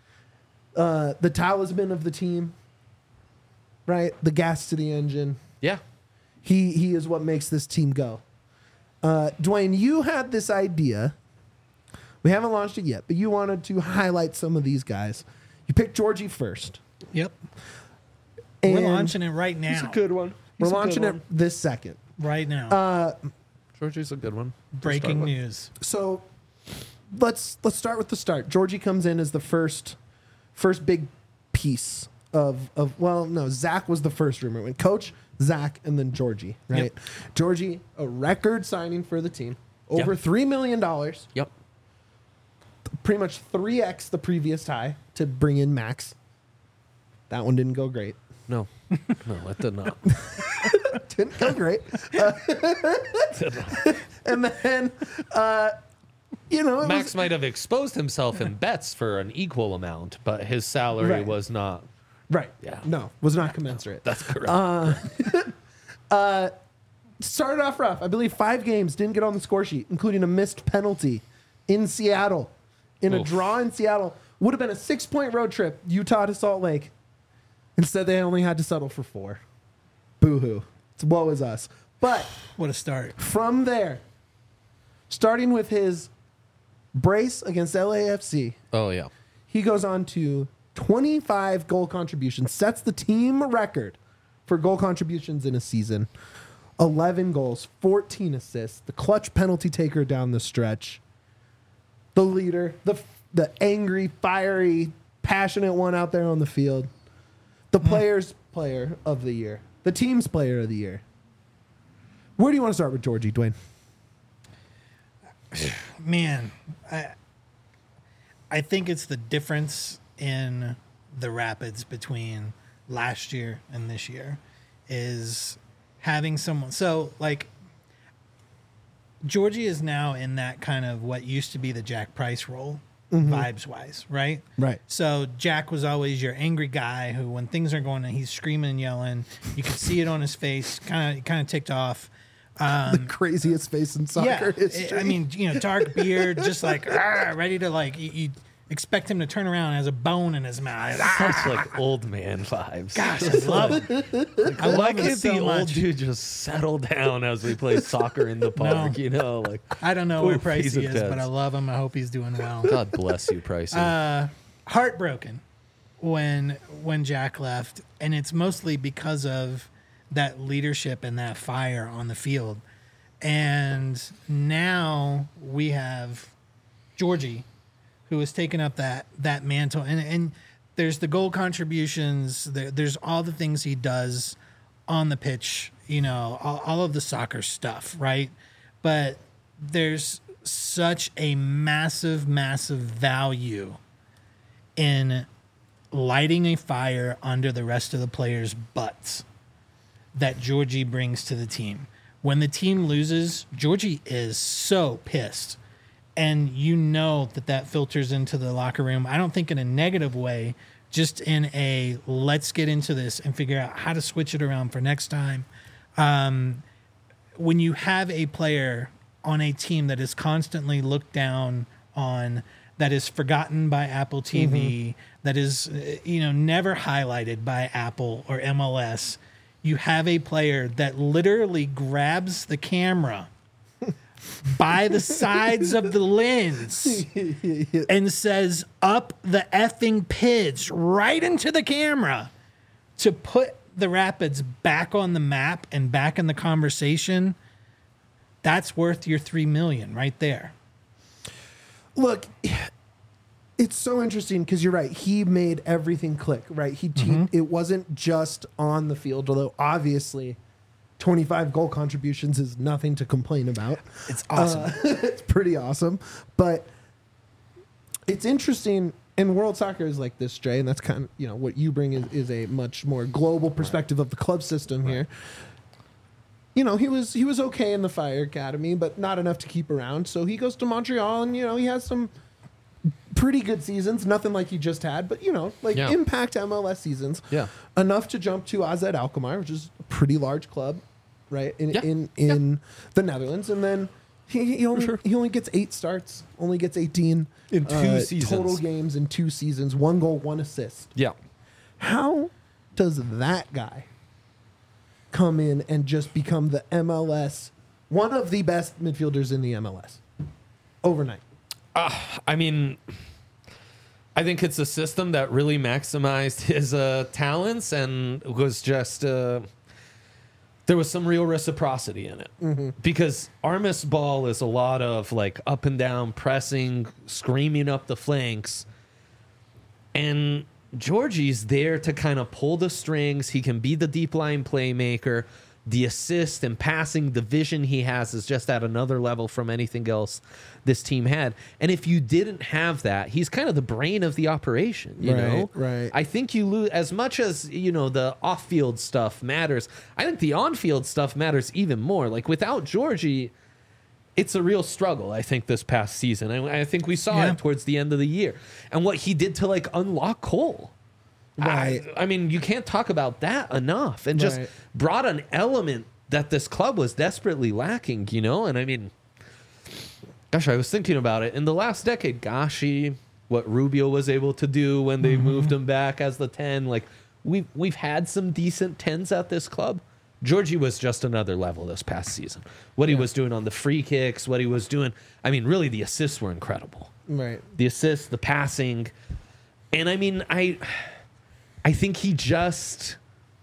[SPEAKER 1] The talisman of the team. Right, the gas to the engine.
[SPEAKER 3] Yeah.
[SPEAKER 1] He is what makes this team go. Dwayne, you had this idea. We haven't launched it yet, but you wanted to highlight some of these guys. You picked Georgie first.
[SPEAKER 2] Yep.
[SPEAKER 1] And
[SPEAKER 2] We're launching it right now.
[SPEAKER 3] He's a good one.
[SPEAKER 1] We're launching it this second.
[SPEAKER 2] Right now.
[SPEAKER 3] Georgie's a good one.
[SPEAKER 2] Breaking news.
[SPEAKER 1] So let's start with the start. Georgie comes in as the first big piece of Zach was the first rumor. When Coach, Zach, and then Georgie, right?
[SPEAKER 2] Yep.
[SPEAKER 1] Georgie, a record signing for the team. Over
[SPEAKER 3] Yeah.
[SPEAKER 1] $3 million.
[SPEAKER 3] Yep.
[SPEAKER 1] Pretty much 3x the previous high to bring in Max. That one didn't go great.
[SPEAKER 3] No, it did not.
[SPEAKER 1] Didn't go great. And then, it
[SPEAKER 3] Max
[SPEAKER 1] was,
[SPEAKER 3] might have exposed himself in bets for an equal amount, but his salary
[SPEAKER 1] Right.
[SPEAKER 3] was not.
[SPEAKER 1] right.
[SPEAKER 3] Yeah.
[SPEAKER 1] No, was not commensurate.
[SPEAKER 3] That's correct.
[SPEAKER 1] Started off rough. I believe 5 games didn't get on the score sheet, including a missed penalty in Seattle. In a
[SPEAKER 3] Oof.
[SPEAKER 1] draw in Seattle. Would have been a 6-point road trip, Utah to Salt Lake. Instead, they only had to settle for 4. Boo-hoo. It's woe is us. But
[SPEAKER 2] What a start.
[SPEAKER 1] from there, starting with his brace against LAFC,
[SPEAKER 3] Oh yeah.
[SPEAKER 1] he goes on to 25 goal contributions, sets the team record for goal contributions in a season. 11 goals, 14 assists, the clutch penalty taker down the stretch, the leader, the angry, fiery, passionate one out there on the field, the player's player of the year, the team's player of the year. Where do you want to start with Georgie, Dwayne?
[SPEAKER 2] Man, I think it's the difference in the Rapids between last year and this year is having someone. So, like, Georgie is now in that kind of what used to be the Jack Price role, vibes-wise, right?
[SPEAKER 1] Right.
[SPEAKER 2] So Jack was always your angry guy who, when things are going on, he's screaming and yelling. You could see it on his face, kind of ticked off.
[SPEAKER 1] The craziest face in soccer history.
[SPEAKER 2] I mean, dark beard, just like ready to you expect him to turn around and has a bone in his mouth.
[SPEAKER 3] Such like old man vibes.
[SPEAKER 2] Gosh, I love him. I
[SPEAKER 3] Why
[SPEAKER 2] love him
[SPEAKER 3] can't
[SPEAKER 2] so
[SPEAKER 3] the old
[SPEAKER 2] much.
[SPEAKER 3] dude just settle down as we play soccer in the park?
[SPEAKER 2] No. I don't know where
[SPEAKER 3] Poor piece
[SPEAKER 2] Pricey
[SPEAKER 3] of
[SPEAKER 2] is,
[SPEAKER 3] Teds.
[SPEAKER 2] but I love him. I hope he's doing well.
[SPEAKER 3] God bless you, Pricey.
[SPEAKER 2] Heartbroken when Jack left, and it's mostly because of that leadership and that fire on the field. And now we have Georgie, who has taken up that mantle, and there's the goal contributions, there's all the things he does on the pitch, all of the soccer stuff, right? But there's such a massive value in lighting a fire under the rest of the players' butts that Georgie brings to the team. When the team loses, Georgie is so pissed. And you know that filters into the locker room. I don't think in a negative way, just in a let's get into this and figure out how to switch it around for next time. When you have a player on a team that is constantly looked down on, that is forgotten by Apple TV, that is never highlighted by Apple or MLS, you have a player that literally grabs the camera by the sides of the lens and says, up the effing pids, right into the camera, to put the Rapids back on the map and back in the conversation. That's worth your $3 million right there.
[SPEAKER 1] Look, it's so interesting because you're right. He made everything click, right? It wasn't just on the field, although obviously 25 goal contributions is nothing to complain about.
[SPEAKER 2] It's awesome.
[SPEAKER 1] It's pretty awesome. But it's interesting, and World Soccer is like this, Jay, and that's kind of, what you bring is a much more global perspective of the club system here. He was okay in the Fire Academy, but not enough to keep around. So he goes to Montreal, and, he has some pretty good seasons, nothing like he just had, but, impact MLS seasons.
[SPEAKER 3] Yeah.
[SPEAKER 1] Enough to jump to AZ Alkmaar, which is a pretty large club, right, in the Netherlands. And then he only gets 8 starts, only gets 18
[SPEAKER 3] in 2 seasons.
[SPEAKER 1] Total games in 2 seasons, 1 goal, 1 assist.
[SPEAKER 3] Yeah.
[SPEAKER 1] How does that guy come in and just become the MLS, one of the best midfielders in the MLS overnight?
[SPEAKER 3] I mean, I think it's a system that really maximized his talents and was just there was some real reciprocity in it. Because Armas ball is a lot of like up and down pressing, screaming up the flanks, and Georgie's there to kind of pull the strings. He can be the deep line playmaker. The assist and passing, the vision he has is just at another level from anything else this team had. And if you didn't have that, he's kind of the brain of the operation, you know?
[SPEAKER 1] Right.
[SPEAKER 3] I think you lose, as much as, the off-field stuff matters, I think the on-field stuff matters even more. Like, without Georgie, it's a real struggle, I think, this past season. I think we saw it towards the end of the year. And what he did to, unlock Cole.
[SPEAKER 1] Right.
[SPEAKER 3] I mean, you can't talk about that enough, and just brought an element that this club was desperately lacking, And I mean, gosh, I was thinking about it in the last decade. What Rubio was able to do when they moved him back as the 10, we've had some decent 10s at this club. Georgie was just another level this past season. What he was doing on the free kicks, what he was doing. I mean, really, the assists were incredible.
[SPEAKER 1] Right.
[SPEAKER 3] The assists, the passing, and I mean, I think he just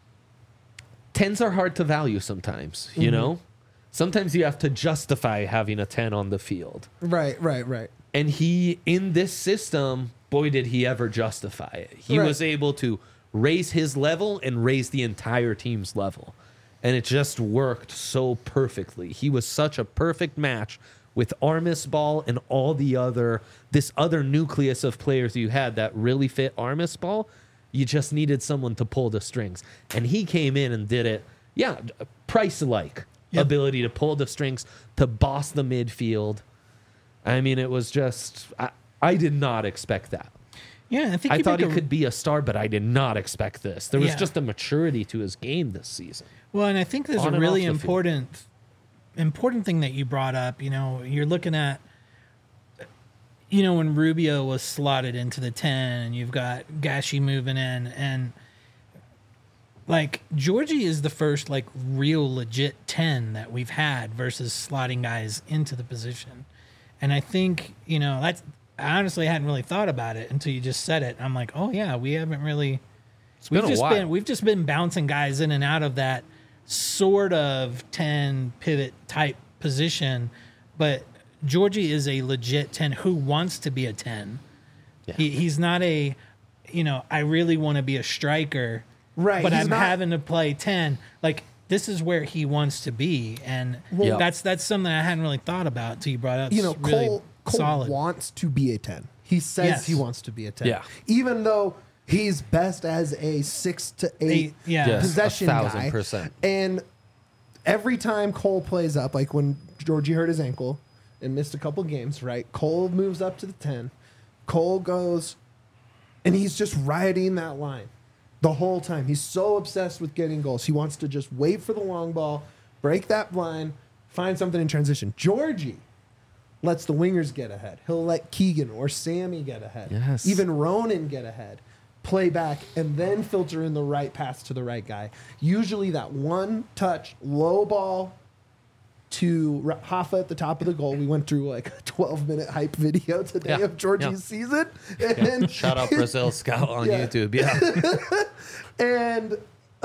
[SPEAKER 3] 10s are hard to value sometimes, Sometimes you have to justify having a 10 on the field.
[SPEAKER 1] Right.
[SPEAKER 3] And he, in this system, boy, did he ever justify it. He was able to raise his level and raise the entire team's level. And it just worked so perfectly. He was such a perfect match with Armas ball and all this other nucleus of players you had that really fit Armas ball. You just needed someone to pull the strings. And he came in and did it. Yeah, Price-like ability to pull the strings, to boss the midfield. I mean, it was just... I did not expect that.
[SPEAKER 2] Yeah,
[SPEAKER 3] I thought he could be a star, but I did not expect this. There was just a maturity to his game this season.
[SPEAKER 2] Well, and I think there's a really important thing that you brought up. You're looking at... when Rubio was slotted into the 10 and you've got Gashi moving in, and Georgie is the first real legit 10 that we've had versus slotting guys into the position. And I think, that's, I honestly hadn't really thought about it until you just said it. I'm like, oh yeah, we haven't really, we've just been bouncing guys in and out of that sort of 10 pivot type position, but Georgie is a legit 10 who wants to be a 10. Yeah. He's not a, I really want to be a striker, right? But I'm having to play 10. This is where he wants to be, and that's something I hadn't really thought about until you brought it up.
[SPEAKER 1] Cole wants to be a 10. He says he wants to be a 10.
[SPEAKER 3] Yeah.
[SPEAKER 1] Even though He's best as a 6 to 8
[SPEAKER 2] Yeah.
[SPEAKER 3] Yes,
[SPEAKER 1] possession guy.
[SPEAKER 3] 1,000%.
[SPEAKER 1] And every time Cole plays up, like when Georgie hurt his ankle and missed a couple games, right? Cole moves up to the 10. Cole goes, and he's just riding that line the whole time. He's so obsessed with getting goals. He wants to just wait for the long ball, break that line, find something in transition. Georgie lets the wingers get ahead. He'll let Keegan or Sammy get ahead.
[SPEAKER 3] Yes.
[SPEAKER 1] Even Ronan get ahead. Play back and then filter in the right pass to the right guy. Usually that one touch, low ball to Hoffa at the top of the goal. We went through like a 12-minute hype video today
[SPEAKER 3] Yeah.
[SPEAKER 1] of Georgie's season. And
[SPEAKER 3] Shout out Brazil Scout on
[SPEAKER 1] Yeah.
[SPEAKER 3] YouTube. Yeah.
[SPEAKER 1] and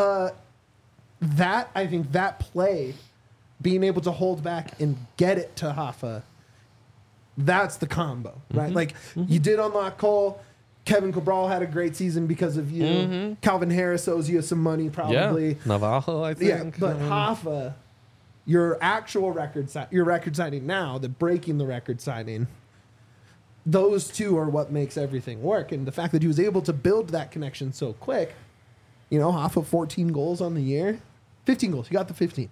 [SPEAKER 1] that, I think that play, being able to hold back and get it to Hoffa, that's the combo, right? Like you did unlock Cole. Kevin Cabral had a great season because of you. Calvin Harris owes you some money, probably.
[SPEAKER 3] Yeah. Navajo, I
[SPEAKER 1] Yeah,
[SPEAKER 3] think.
[SPEAKER 1] but Hoffa, your actual your record signing now, the breaking the record signing, those two are what makes everything work. And the fact that he was able to build that connection so quick, you know, Hoffa 14 goals on the year, 15 goals. He got the 15.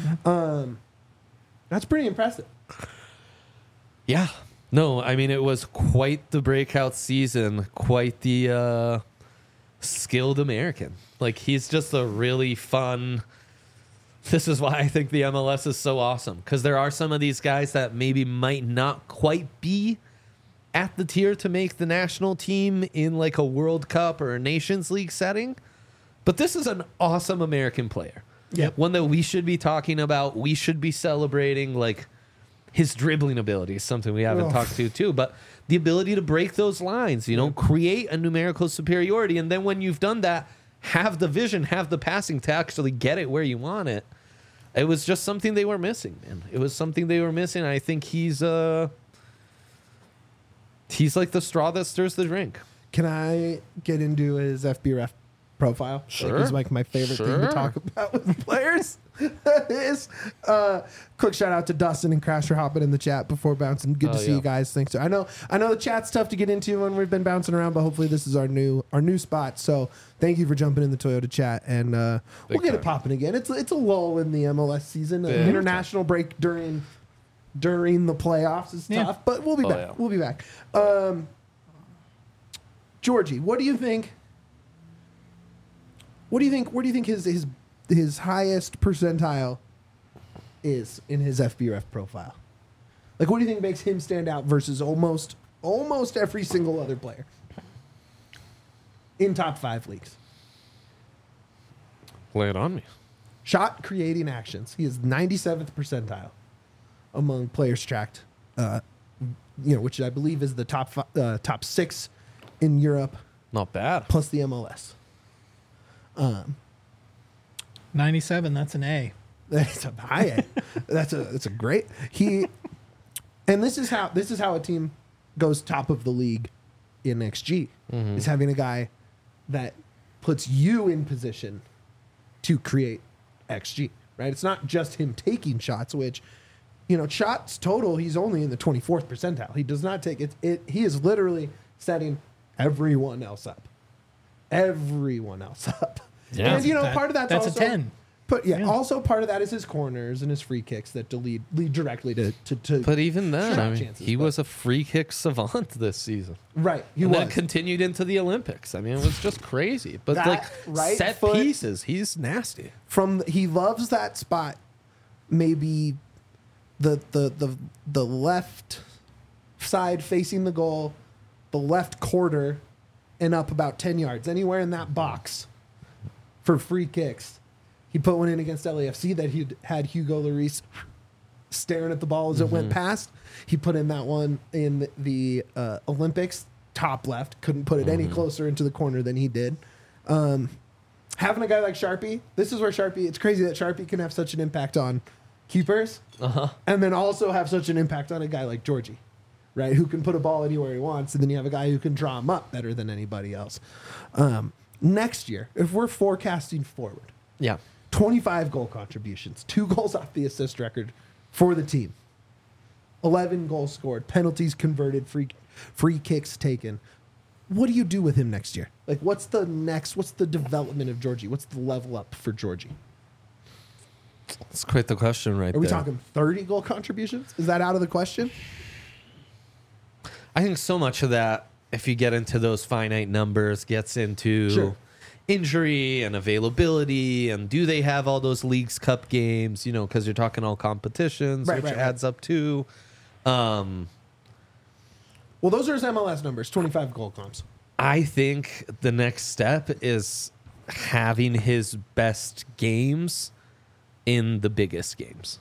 [SPEAKER 1] That's pretty impressive.
[SPEAKER 3] Yeah. No, I mean, it was quite the breakout season, quite the skilled American. Like, he's just a really fun. This is why I think the MLS is so awesome, because there are some of these guys that maybe might not quite be at the tier to make the national team in like a World Cup or a Nations League setting. But this is an awesome American player.
[SPEAKER 1] Yep.
[SPEAKER 3] One that we should be talking about. We should be celebrating, like, his dribbling ability is something we haven't talked to too, but the ability to break those lines, you know, create a numerical superiority. And then when you've done that, have the vision, have the passing to actually get it where you want it. It was just something they were missing, man. It was something they were missing. I think he's like the straw that stirs the drink.
[SPEAKER 1] Can I get into his FBref profile?
[SPEAKER 3] Sure.
[SPEAKER 1] Like, it's like my favorite thing to
[SPEAKER 3] Sure.
[SPEAKER 1] talk about with players. Is quick shout out to Dustin and Crasher hopping in the chat before bouncing. Good to see
[SPEAKER 3] yeah.
[SPEAKER 1] you guys. Thanks. I know the chat's tough to get into when we've been bouncing around, but hopefully this is our new spot. So thank you for jumping in the Toyota chat, and we'll get it popping again. It's a lull in the MLS season. An international break during the playoffs is tough, but we'll be back.
[SPEAKER 3] Yeah.
[SPEAKER 1] We'll be back. Georgie, what do you think? Where do you think his highest percentile is in his FBref profile? Like, what do you think makes him stand out versus almost every single other player in top 5 leagues?
[SPEAKER 3] Lay it on me.
[SPEAKER 1] Shot creating actions. He is 97th percentile among players tracked. Which I believe is the top 6 in Europe
[SPEAKER 3] Not bad.
[SPEAKER 1] plus the MLS.
[SPEAKER 2] 97, that's an A.
[SPEAKER 1] That's a high A. That's a great. And this is how a team goes top of the league in XG. Is having a guy that puts you in position to create XG, right? It's not just him taking shots, which, shots total, he's only in the 24th percentile. He does not take it. He is literally setting everyone else up. Everyone else up.
[SPEAKER 3] Yeah.
[SPEAKER 1] And, part of that's
[SPEAKER 2] a
[SPEAKER 1] also
[SPEAKER 2] 10.
[SPEAKER 1] But also part of that is his corners and his free kicks that lead directly to
[SPEAKER 3] But even then,
[SPEAKER 1] shot
[SPEAKER 3] I mean,
[SPEAKER 1] chances,
[SPEAKER 3] he
[SPEAKER 1] but-
[SPEAKER 3] was a free kick savant this season.
[SPEAKER 1] right. He
[SPEAKER 3] And
[SPEAKER 1] was.
[SPEAKER 3] then continued into the Olympics. I mean, it was just crazy. But
[SPEAKER 1] That
[SPEAKER 3] like
[SPEAKER 1] right
[SPEAKER 3] set
[SPEAKER 1] foot-
[SPEAKER 3] pieces, he's nasty.
[SPEAKER 1] He loves that spot, maybe the left side facing the goal, the left quarter, and up about 10 yards, anywhere in that box for free kicks. He put one in against LAFC that he had Hugo Lloris staring at the ball as it went past. He put in that one in the Olympics, top left. Couldn't put it any closer into the corner than he did. Having a guy like Sharpie, this is where it's crazy that Sharpie can have such an impact on keepers and then also have such an impact on a guy like Georgie, right? Who can put a ball anywhere he wants, and then you have a guy who can draw him up better than anybody else. Next year, if we're forecasting forward,
[SPEAKER 3] Yeah.
[SPEAKER 1] 25 goal contributions, 2 goals off the assist record for the team, 11 goals scored, penalties converted, free kicks taken. what do you do with him next year? Like, what's the development of Georgie? What's the level up for Georgie?
[SPEAKER 3] That's quite the question right
[SPEAKER 1] Are we
[SPEAKER 3] there.
[SPEAKER 1] talking 30 goal contributions? Is that out of the question?
[SPEAKER 3] I think so much of that, if you get into those finite numbers, gets into
[SPEAKER 1] Sure.
[SPEAKER 3] injury and availability, and do they have all those Leagues Cup games, because you're talking all competitions,
[SPEAKER 1] Right,
[SPEAKER 3] which
[SPEAKER 1] right,
[SPEAKER 3] adds up to.
[SPEAKER 1] Well, those are his MLS numbers, 25 goal comps.
[SPEAKER 3] I think the next step is having his best games in the biggest games.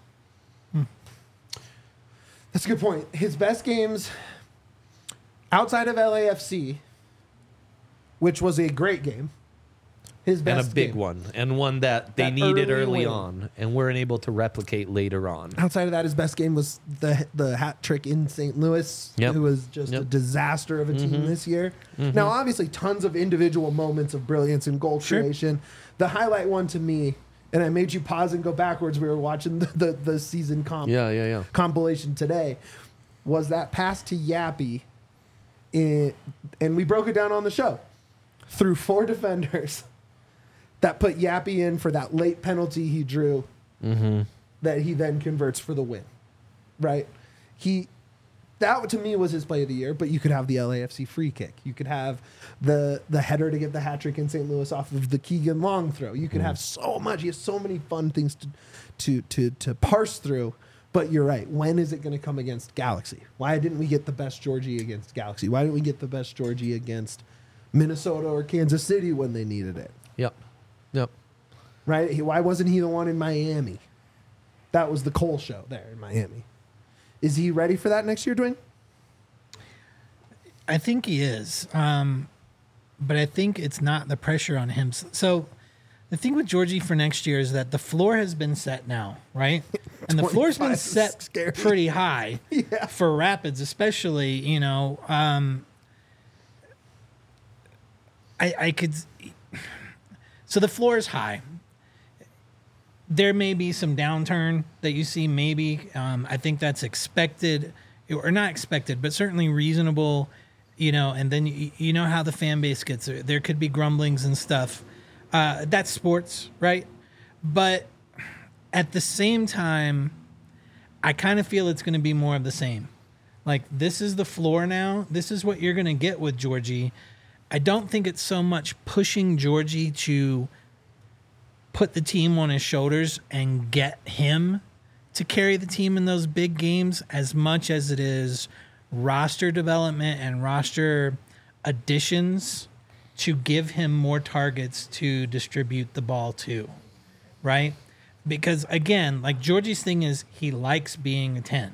[SPEAKER 1] That's a good point. His best games outside of LAFC, which was a great game. His best
[SPEAKER 3] And a big
[SPEAKER 1] game.
[SPEAKER 3] one, and one that they
[SPEAKER 1] That
[SPEAKER 3] needed
[SPEAKER 1] early
[SPEAKER 3] early
[SPEAKER 1] win.
[SPEAKER 3] on and weren't able to replicate later on.
[SPEAKER 1] Outside of that, his best game was the hat trick in St. Louis,
[SPEAKER 3] Yep.
[SPEAKER 1] who was just a
[SPEAKER 3] Yep.
[SPEAKER 1] disaster of a team this year. Now, obviously, tons of individual moments of brilliance and goal
[SPEAKER 2] Sure.
[SPEAKER 1] creation. The highlight one to me, and I made you pause and go backwards. We were watching the season
[SPEAKER 3] Yeah.
[SPEAKER 1] compilation today. Was that pass to Yappy, and we broke it down on the show through 4 defenders that put Yappy in for that late penalty he drew that he then converts for the win, right? That to me was his play of the year, but you could have the LAFC free kick. You could have the header to get the hat trick in St. Louis off of the Keegan Long throw. You could have so much. He has so many fun things to parse through. But you're right. When is it going to come against Galaxy? Why didn't we get the best Georgie against Galaxy? Why didn't we get the best Georgie against Minnesota or Kansas City when they needed it?
[SPEAKER 3] Yep.
[SPEAKER 1] Right? Why wasn't he the one in Miami? That was the Cole show there in Miami. Is he ready for that next year, Dwayne?
[SPEAKER 2] I think he is. But I think it's not the pressure on him. So the thing with Georgie for next year is that the floor has been set now, right? And the floor's been
[SPEAKER 1] 25 is
[SPEAKER 2] set
[SPEAKER 1] scary.
[SPEAKER 2] pretty high
[SPEAKER 1] Yeah.
[SPEAKER 2] for Rapids, especially, I could. So the floor is high. There may be some downturn that you see, maybe. I think that's expected, or not expected, but certainly reasonable, and then you know how the fan base gets. There could be grumblings and stuff. That's sports, right? But at the same time, I kind of feel it's going to be more of the same. Like, this is the floor now. This is what you're going to get with Georgie. I don't think it's so much pushing Georgie to put the team on his shoulders and get him to carry the team in those big games as much as it is roster development and roster additions to give him more targets to distribute the ball to, right? Because again, like, Georgie's thing is he likes being a 10.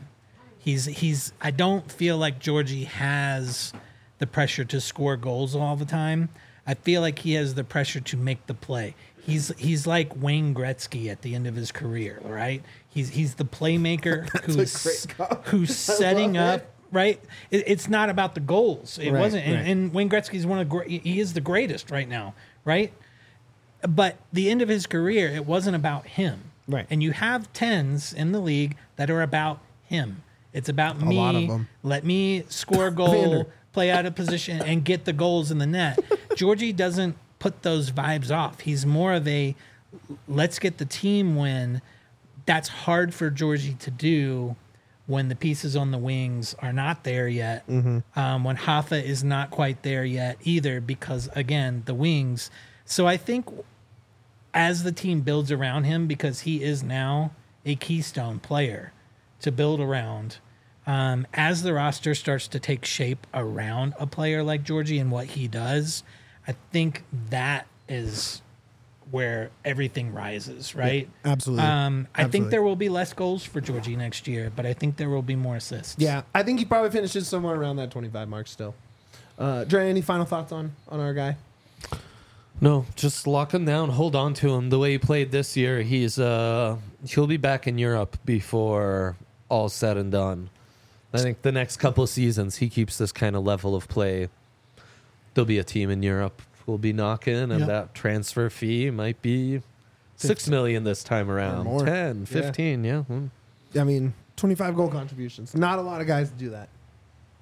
[SPEAKER 2] I don't feel like Georgie has the pressure to score goals all the time. I feel like he has the pressure to make the play. He's like Wayne Gretzky at the end of his career, right? He's the playmaker who's setting up, right? It's not about the goals. It
[SPEAKER 1] Right,
[SPEAKER 2] wasn't.
[SPEAKER 1] right.
[SPEAKER 2] And Wayne Gretzky's he is the greatest right now, right? But the end of his career, it wasn't about him.
[SPEAKER 1] Right.
[SPEAKER 2] And you have 10s in the league that are about him. It's about me.
[SPEAKER 1] lot of 'em.
[SPEAKER 2] Let me score a goal,
[SPEAKER 1] Vander.
[SPEAKER 2] play out of position, and get the goals in the net. Georgie doesn't put those vibes off. He's more of a let's get the team win. That's hard for Georgie to do when the pieces on the wings are not there yet. When Hoffa is not quite there yet either, because again, the wings. So I think as the team builds around him, because he is now a keystone player to build around, as the roster starts to take shape around a player like Georgie and what he does, I think that is where everything rises, right?
[SPEAKER 1] Yeah, absolutely.
[SPEAKER 2] I think
[SPEAKER 1] Absolutely.
[SPEAKER 2] there will be less goals for Georgie next year, but I think there will be more assists.
[SPEAKER 1] Yeah, I think he probably finishes somewhere around that 25 mark still. Dre, any final thoughts on our guy?
[SPEAKER 3] No, just lock him down. Hold on to him. The way he played this year, he'll be back in Europe before all's said and done. I think the next couple of seasons, he keeps this kind of level of play. There'll be a team in Europe who'll be knocking, and
[SPEAKER 1] Yep.
[SPEAKER 3] that transfer fee might be $6 million this time around.
[SPEAKER 1] more.
[SPEAKER 3] 10,
[SPEAKER 1] Yeah.
[SPEAKER 3] 15, yeah.
[SPEAKER 1] I mean, 25 goal contributions. Not a lot of guys do that.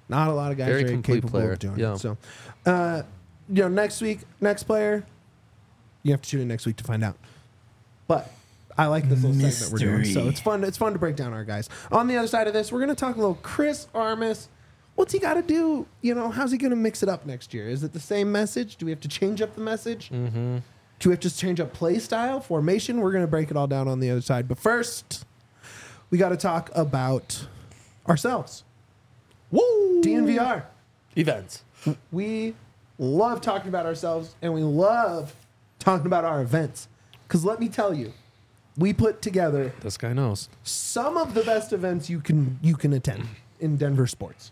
[SPEAKER 1] Not a lot of guys
[SPEAKER 3] Very
[SPEAKER 1] are
[SPEAKER 3] complete
[SPEAKER 1] capable
[SPEAKER 3] player.
[SPEAKER 1] of doing
[SPEAKER 3] Yeah.
[SPEAKER 1] it. So, next week, next player, you have to tune in next week to find out. But I like this little segment we're doing. So it's fun. It's fun to break down our guys. On the other side of this, we're going to talk a little Chris Armas. What's he got to do? How's he going to mix it up next year? Is it the same message? Do we have to change up the message? Mm-hmm. Do we have to change up play style, formation? We're going to break it all down on the other side. But first, we got to talk about ourselves.
[SPEAKER 3] Woo!
[SPEAKER 1] DNVR.
[SPEAKER 3] Events.
[SPEAKER 1] We love talking about ourselves, and we love talking about our events. Because let me tell you, we put together
[SPEAKER 3] This guy knows.
[SPEAKER 1] some of the best events you can attend in Denver sports.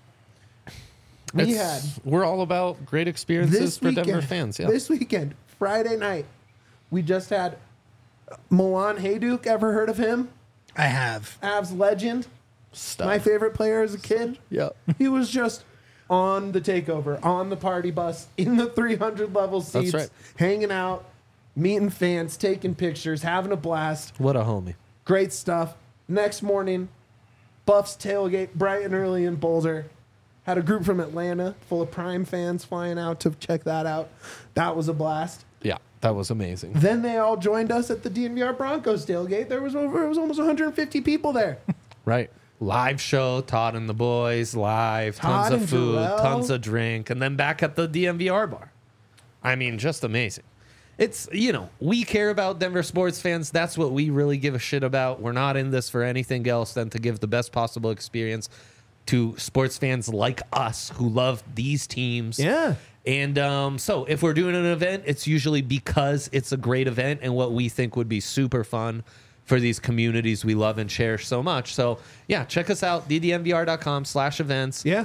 [SPEAKER 3] We're all about great experiences
[SPEAKER 1] This
[SPEAKER 3] for
[SPEAKER 1] weekend,
[SPEAKER 3] Denver fans. Yeah.
[SPEAKER 1] This weekend, Friday night, we just had Milan Hajduk. Ever heard of him?
[SPEAKER 2] I have.
[SPEAKER 1] Avs legend.
[SPEAKER 3] Stuff.
[SPEAKER 1] My favorite player as a kid.
[SPEAKER 3] Yeah.
[SPEAKER 1] He was just on the takeover, on the party bus, in the 300 level seats,
[SPEAKER 3] right.
[SPEAKER 1] hanging out, meeting fans, taking pictures, having a blast.
[SPEAKER 3] What a homie.
[SPEAKER 1] Great stuff. Next morning, Buffs tailgate bright and early in Boulder. Had a group from Atlanta full of Prime fans flying out to check that out. That was a blast.
[SPEAKER 3] Yeah, that was amazing.
[SPEAKER 1] Then they all joined us at the DNVR Broncos tailgate. It was almost 150 people there.
[SPEAKER 3] Right. Live show, Todd and the boys, live,
[SPEAKER 1] Todd
[SPEAKER 3] tons of
[SPEAKER 1] and
[SPEAKER 3] food,
[SPEAKER 1] Jarrell.
[SPEAKER 3] tons of drink, and then back at the DNVR bar. I mean, just amazing. It's, we care about Denver sports fans. That's what we really give a shit about. We're not in this for anything else than to give the best possible experience to sports fans like us who love these teams.
[SPEAKER 1] Yeah.
[SPEAKER 3] And so if we're doing an event, it's usually because it's a great event and what we think would be super fun for these communities we love and cherish so much. So, yeah, check us out, ddnvr.com/events.
[SPEAKER 1] Yeah.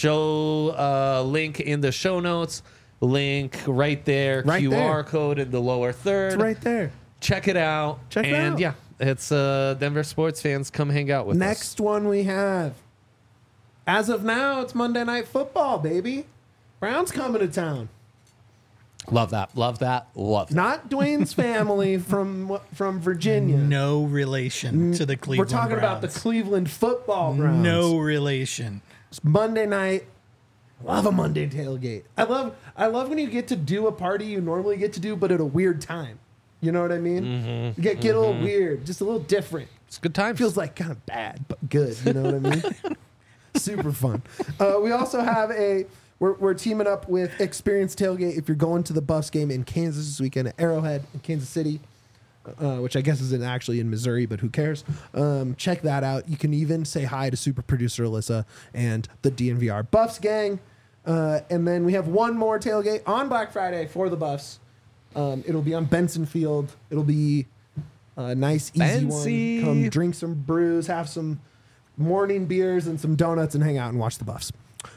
[SPEAKER 3] Show link in the show notes, link right there,
[SPEAKER 1] Right
[SPEAKER 3] QR
[SPEAKER 1] there.
[SPEAKER 3] code in the lower third.
[SPEAKER 1] It's right there.
[SPEAKER 3] Check it out.
[SPEAKER 1] Check it
[SPEAKER 3] and
[SPEAKER 1] out.
[SPEAKER 3] yeah, it's Denver sports fans. Come hang out with us.
[SPEAKER 1] Next one we have. As of now, it's Monday Night Football, baby. Browns coming to town.
[SPEAKER 3] Love that. Love that. Love that.
[SPEAKER 1] Not Dwayne's family from Virginia.
[SPEAKER 2] No relation to the
[SPEAKER 1] We're
[SPEAKER 2] Cleveland
[SPEAKER 1] talking about the
[SPEAKER 2] Browns.
[SPEAKER 1] Cleveland Football Browns.
[SPEAKER 2] No relation.
[SPEAKER 1] It's Monday night. Love a Monday tailgate. I love when you get to do a party you normally get to do, but at a weird time. You know what I mean?
[SPEAKER 3] Mm-hmm.
[SPEAKER 1] You get a little weird, just a little different.
[SPEAKER 3] It's a good time.
[SPEAKER 1] Feels like kind of bad, but good. You know what I mean? Super fun. We also have we're teaming up with Experience Tailgate. If you're going to the Buffs game in Kansas this weekend at Arrowhead in Kansas City, which I guess isn't actually in Missouri, but who cares? Check that out. You can even say hi to super producer Alyssa and the DNVR Buffs gang. And then we have one more tailgate on Black Friday for the Buffs. It'll be on Benson Field. It'll be a nice, easy
[SPEAKER 3] Fancy.
[SPEAKER 1] one. Come drink some brews, have some morning beers and some donuts, and hang out and watch the Buffs.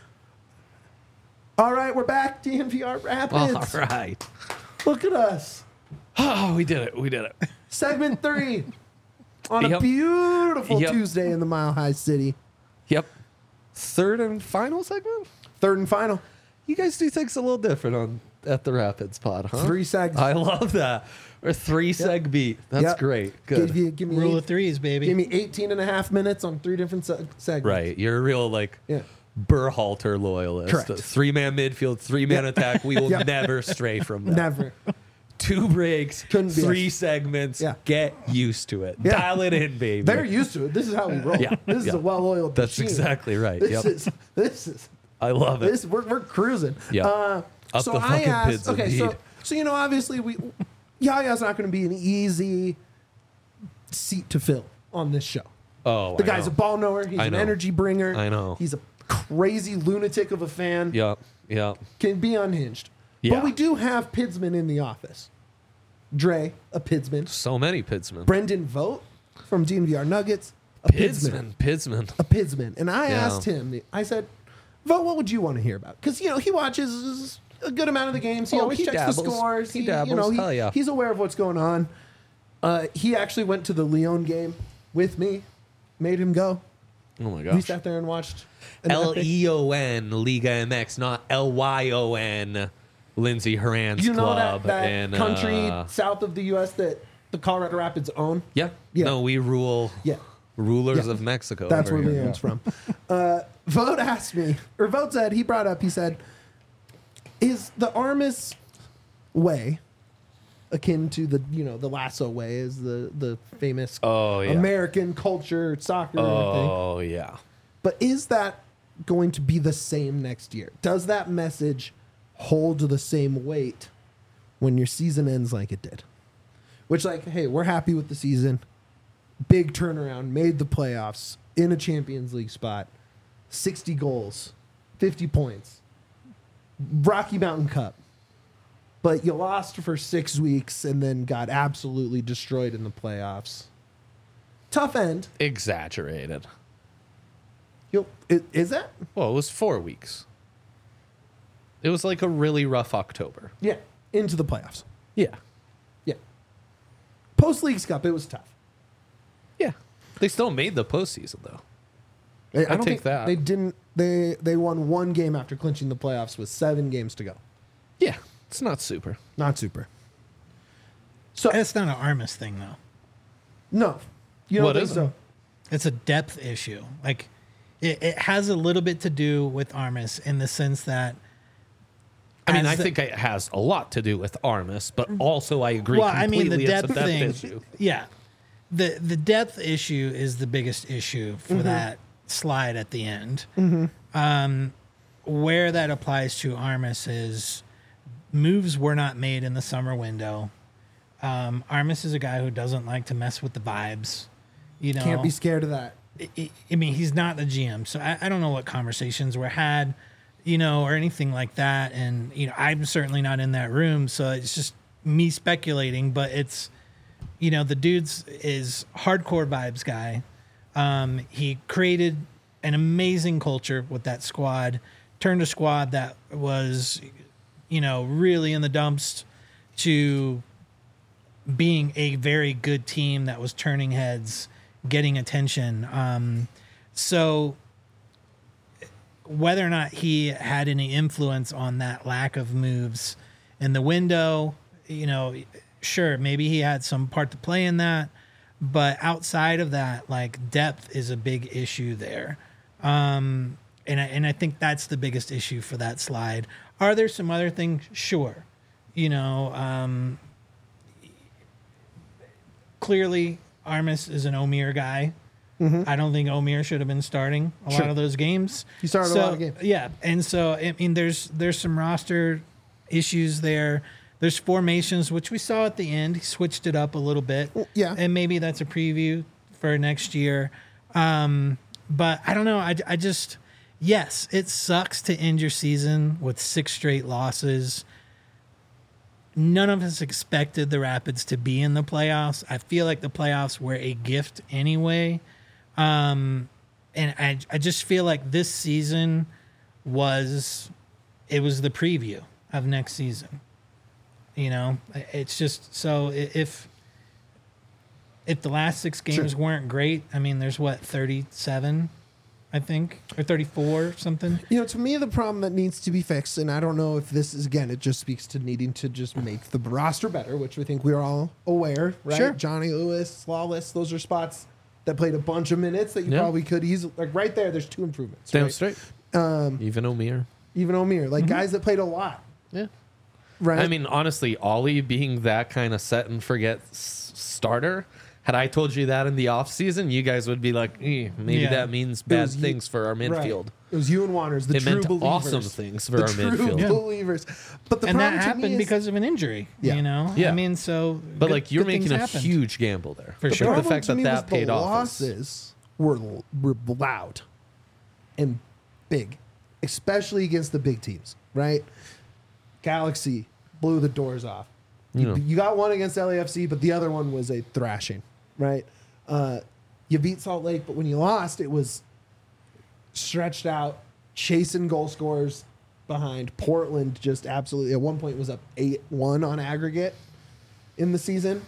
[SPEAKER 1] All right, we're back. DNVR Rapids.
[SPEAKER 3] All right.
[SPEAKER 1] Look at us.
[SPEAKER 3] Oh, we did it. We did it.
[SPEAKER 1] Segment 3 on a
[SPEAKER 3] Yep.
[SPEAKER 1] beautiful
[SPEAKER 3] Yep.
[SPEAKER 1] Tuesday in the Mile High City.
[SPEAKER 3] Yep. Third and final segment?
[SPEAKER 1] Third and final.
[SPEAKER 3] You guys do things a little different at the Rapids pod, huh?
[SPEAKER 1] 3 segs.
[SPEAKER 3] I love that. Or 3 seg beat. That's
[SPEAKER 1] Yep.
[SPEAKER 3] great. Good.
[SPEAKER 1] Give me
[SPEAKER 2] Rule of threes, baby.
[SPEAKER 1] Give me 18 and a half minutes on 3 different segments.
[SPEAKER 3] Right. You're a real
[SPEAKER 1] Yeah.
[SPEAKER 3] Berhalter loyalist.
[SPEAKER 1] Correct.
[SPEAKER 3] 3-man midfield, 3-man attack. We will
[SPEAKER 1] Yep.
[SPEAKER 3] never stray from that.
[SPEAKER 1] Never.
[SPEAKER 3] 2 breaks,
[SPEAKER 1] Couldn't be
[SPEAKER 3] 3
[SPEAKER 1] us.
[SPEAKER 3] segments.
[SPEAKER 1] Yeah.
[SPEAKER 3] Get used to it.
[SPEAKER 1] Yeah.
[SPEAKER 3] Dial it in, baby.
[SPEAKER 1] They're used to it. This is how we roll.
[SPEAKER 3] Yeah.
[SPEAKER 1] This is
[SPEAKER 3] Yeah.
[SPEAKER 1] a well-oiled
[SPEAKER 3] That's
[SPEAKER 1] machine.
[SPEAKER 3] exactly right.
[SPEAKER 1] This
[SPEAKER 3] Yep.
[SPEAKER 1] is
[SPEAKER 3] I love it.
[SPEAKER 1] this. We're cruising.
[SPEAKER 3] Yeah. Up
[SPEAKER 1] So
[SPEAKER 3] the
[SPEAKER 1] I
[SPEAKER 3] fucking
[SPEAKER 1] asked.
[SPEAKER 3] pids,
[SPEAKER 1] Okay,
[SPEAKER 3] indeed.
[SPEAKER 1] so obviously Yaya's not going to be an easy seat to fill on this show.
[SPEAKER 3] Oh,
[SPEAKER 1] The
[SPEAKER 3] I
[SPEAKER 1] guy's
[SPEAKER 3] know.
[SPEAKER 1] a ball knower. He's
[SPEAKER 3] I
[SPEAKER 1] an
[SPEAKER 3] know.
[SPEAKER 1] energy bringer.
[SPEAKER 3] I know.
[SPEAKER 1] He's a crazy lunatic of a fan.
[SPEAKER 3] Yep. Yep.
[SPEAKER 1] Can be unhinged.
[SPEAKER 3] Yeah.
[SPEAKER 1] But we do have Pidsman in the office. Dre, a Pidsman.
[SPEAKER 3] So many Pidsmen.
[SPEAKER 1] Brendan Vogt from DNVR Nuggets, a Pidsman.
[SPEAKER 3] Pidsman.
[SPEAKER 1] A Pidsman. And I
[SPEAKER 3] Yeah.
[SPEAKER 1] asked him, I said, Vogt, what would you want to hear about? Because, he watches a good amount of the games. He
[SPEAKER 3] Oh,
[SPEAKER 1] always
[SPEAKER 3] he
[SPEAKER 1] checks
[SPEAKER 3] dabbles.
[SPEAKER 1] the scores.
[SPEAKER 3] He dabbles. Hell yeah.
[SPEAKER 1] He's aware of what's going on. He actually went to the Leon game with me, made him go.
[SPEAKER 3] Oh my
[SPEAKER 1] We
[SPEAKER 3] gosh.
[SPEAKER 1] sat there and watched. an epic-
[SPEAKER 3] LEON Liga MX, not LYON Lindsey Horan's
[SPEAKER 1] You know
[SPEAKER 3] club.
[SPEAKER 1] that
[SPEAKER 3] and,
[SPEAKER 1] country south of the U.S. that the Colorado Rapids own?
[SPEAKER 3] Yeah.
[SPEAKER 1] Yeah.
[SPEAKER 3] No, we rule.
[SPEAKER 1] Yeah.
[SPEAKER 3] Rulers
[SPEAKER 1] Yeah.
[SPEAKER 3] of Mexico.
[SPEAKER 1] That's
[SPEAKER 3] over
[SPEAKER 1] where
[SPEAKER 3] here.
[SPEAKER 1] Leon's from. Vote asked me, or Vote said, he brought up, he said, is the Armis way akin to the, the Lasso way, is the famous
[SPEAKER 3] Oh, yeah.
[SPEAKER 1] American culture soccer thing.
[SPEAKER 3] Oh, yeah.
[SPEAKER 1] But is that going to be the same next year? Does that message hold the same weight when your season ends like it did? Which, like, hey, we're happy with the season. Big turnaround, made the playoffs in a Champions League spot, 60 goals, 50 points, Rocky Mountain Cup. But you lost for 6 weeks and then got absolutely destroyed in the playoffs. Tough end.
[SPEAKER 3] Exaggerated.
[SPEAKER 1] Is that?
[SPEAKER 3] Well, it was 4 weeks. It was like a really rough October.
[SPEAKER 1] Yeah. Into the playoffs.
[SPEAKER 3] Yeah.
[SPEAKER 1] Yeah. Post Leagues Cup, it was tough.
[SPEAKER 3] Yeah. They still made the postseason, though.
[SPEAKER 1] I don't
[SPEAKER 3] take
[SPEAKER 1] think
[SPEAKER 3] that.
[SPEAKER 1] They didn't. They won one game after clinching the playoffs with 7 games to go.
[SPEAKER 3] Yeah. It's not super.
[SPEAKER 1] Not super. So
[SPEAKER 2] It's not an Armis thing, though.
[SPEAKER 1] no, you don't
[SPEAKER 3] What
[SPEAKER 1] think
[SPEAKER 3] is it?
[SPEAKER 1] so?
[SPEAKER 2] It's a depth issue. Like, it has a little bit to do with Armis in the sense that.
[SPEAKER 3] I mean,
[SPEAKER 2] as
[SPEAKER 3] I think it has a lot to do with Armis, but also I agree
[SPEAKER 2] Well, I mean,
[SPEAKER 3] completely
[SPEAKER 2] the
[SPEAKER 3] it's
[SPEAKER 2] depth
[SPEAKER 3] a depth
[SPEAKER 2] thing.
[SPEAKER 3] issue.
[SPEAKER 2] Yeah, the depth issue is the biggest issue for that slide at the end. Where that applies to Armis is moves were not made in the summer window. Armis is a guy who doesn't like to mess with the vibes. You know,
[SPEAKER 1] Can't be scared of that.
[SPEAKER 2] I mean, he's not the GM, so I don't know what conversations were had, or anything like that. And, I'm certainly not in that room, so it's just me speculating, but it's, the dude's is hardcore vibes guy. He created an amazing culture with that squad, turned a squad that was, really in the dumps to being a very good team that was turning heads, getting attention. So whether or not he had any influence on that lack of moves in the window, sure, maybe he had some part to play in that. But outside of that, like, depth is a big issue there. And I think that's the biggest issue for that slide. Are there some other things? Sure. Clearly, Armis is an Omir guy. I don't think Omir should have been starting a lot of those games.
[SPEAKER 1] He started a lot of games.
[SPEAKER 2] Yeah, and so I mean, there's some roster issues there. There's formations, which we saw at the end. He switched it up a little bit.
[SPEAKER 1] Yeah.
[SPEAKER 2] And maybe that's a preview for next year. But I don't know. I just, yes, it sucks to end your season with 6 straight losses. None of us expected the Rapids to be in the playoffs. I feel like the playoffs were a gift anyway. And I just feel like this season was the preview of next season. It's just, so if the last 6 games weren't great, I mean, there's 37, I think, or 34, something.
[SPEAKER 1] To me, the problem that needs to be fixed, and I don't know if this is, again, it just speaks to needing to just make the roster better, which we think we're all aware, right?
[SPEAKER 2] Sure.
[SPEAKER 1] Johnny Lewis, Lawless, those are spots that played a bunch of minutes that you probably could easily, like, right there, there's 2 improvements.
[SPEAKER 3] Damn
[SPEAKER 1] right?
[SPEAKER 3] straight. Even Omir.
[SPEAKER 1] Even Omir, like guys that played a lot,
[SPEAKER 3] Yeah.
[SPEAKER 1] right?
[SPEAKER 3] I mean, honestly, Ollie being that kind of set and forget starter, had I told you that in the offseason, you guys would be like, maybe that means bad
[SPEAKER 1] was you-
[SPEAKER 3] things for our
[SPEAKER 1] right.
[SPEAKER 3] midfield.
[SPEAKER 1] It was you and Waters, the
[SPEAKER 3] It
[SPEAKER 1] true
[SPEAKER 3] meant
[SPEAKER 1] believers.
[SPEAKER 3] awesome things for
[SPEAKER 1] the
[SPEAKER 3] our
[SPEAKER 1] true
[SPEAKER 3] midfield.
[SPEAKER 1] believers. But the
[SPEAKER 2] And
[SPEAKER 1] problem
[SPEAKER 2] that
[SPEAKER 1] to me
[SPEAKER 2] happened
[SPEAKER 1] is,
[SPEAKER 2] because of an injury,
[SPEAKER 1] Yeah.
[SPEAKER 3] Yeah.
[SPEAKER 2] I mean, so.
[SPEAKER 3] But
[SPEAKER 2] good-
[SPEAKER 3] like, you're
[SPEAKER 2] good things
[SPEAKER 3] making a
[SPEAKER 2] happened.
[SPEAKER 3] huge gamble there.
[SPEAKER 2] For
[SPEAKER 3] But
[SPEAKER 2] sure.
[SPEAKER 3] the
[SPEAKER 1] problem
[SPEAKER 3] fact
[SPEAKER 1] to
[SPEAKER 3] that
[SPEAKER 1] me
[SPEAKER 3] that
[SPEAKER 1] was
[SPEAKER 3] paid
[SPEAKER 1] the
[SPEAKER 3] off.
[SPEAKER 1] losses were loud and big, especially against the big teams, right? Galaxy blew the doors off. You got one against LAFC, but the other one was a thrashing, right? You beat Salt Lake, but when you lost, it was stretched out, chasing goal scorers behind. Portland just absolutely, at one point, was up 8-1 on aggregate in the season.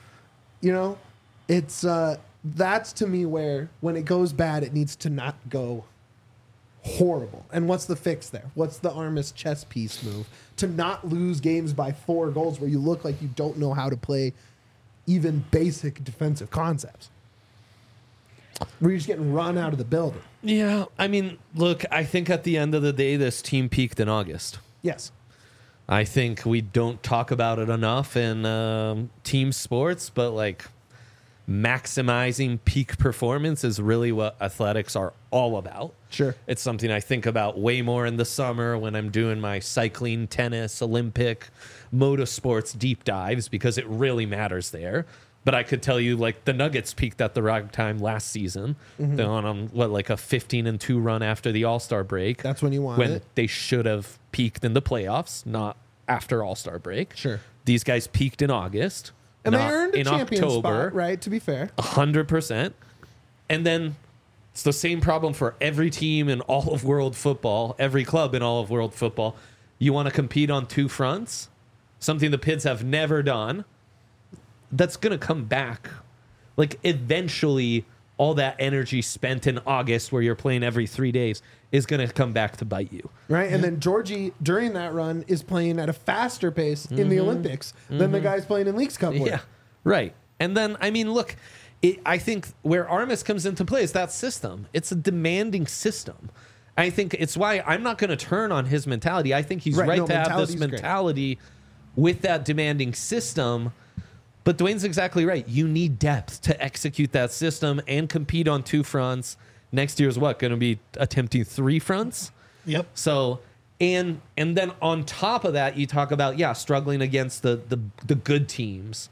[SPEAKER 1] It's that's to me where when it goes bad, it needs to not go horrible. And what's the fix there? What's the Armis chess piece move to not lose games by 4 goals where you look like you don't know how to play even basic defensive concepts? where you're just getting run out of the building.
[SPEAKER 3] Yeah, I mean, look, I think at the end of the day, this team peaked in August.
[SPEAKER 1] Yes.
[SPEAKER 3] I think we don't talk about it enough in team sports, but like maximizing peak performance is really what athletics are all about.
[SPEAKER 1] Sure.
[SPEAKER 3] It's something I think about way more in the summer when I'm doing my cycling, tennis, Olympic, motorsports deep dives because it really matters there. But I could tell you, like, the Nuggets peaked at the right time last season. They're on like a 15-2 run after the All-Star break.
[SPEAKER 1] That's when you want
[SPEAKER 3] when
[SPEAKER 1] it.
[SPEAKER 3] they should have peaked in the playoffs, not after All-Star break.
[SPEAKER 1] Sure.
[SPEAKER 3] These guys peaked in August.
[SPEAKER 1] And they
[SPEAKER 3] not
[SPEAKER 1] earned a
[SPEAKER 3] in
[SPEAKER 1] champion
[SPEAKER 3] October.
[SPEAKER 1] spot, right? To be fair.
[SPEAKER 3] 100%. And then it's the same problem for every team in all of world football, every club in all of world football. You want to compete on two fronts, something the Pids have never done. That's going to come back. Like, eventually, all that energy spent in August where you're playing every 3 days is going to come back to bite you.
[SPEAKER 1] Right. And then Georgie, during that run, is playing at a faster pace in the Olympics than the guys playing in Leagues Cup. were.
[SPEAKER 3] Yeah, right. And then, I mean, look, I think where Armis comes into play is that system. It's a demanding system. I think it's why I'm not going to turn on his mentality. I think he's
[SPEAKER 1] Right,
[SPEAKER 3] right
[SPEAKER 1] no,
[SPEAKER 3] to have this
[SPEAKER 1] mentality's great.
[SPEAKER 3] mentality with that demanding system. But Dwayne's exactly right. You need depth to execute that system and compete on two fronts. Next year's what? Going to be attempting three fronts?
[SPEAKER 2] Yep.
[SPEAKER 3] So, and then on top of that, you talk about, struggling against the good teams.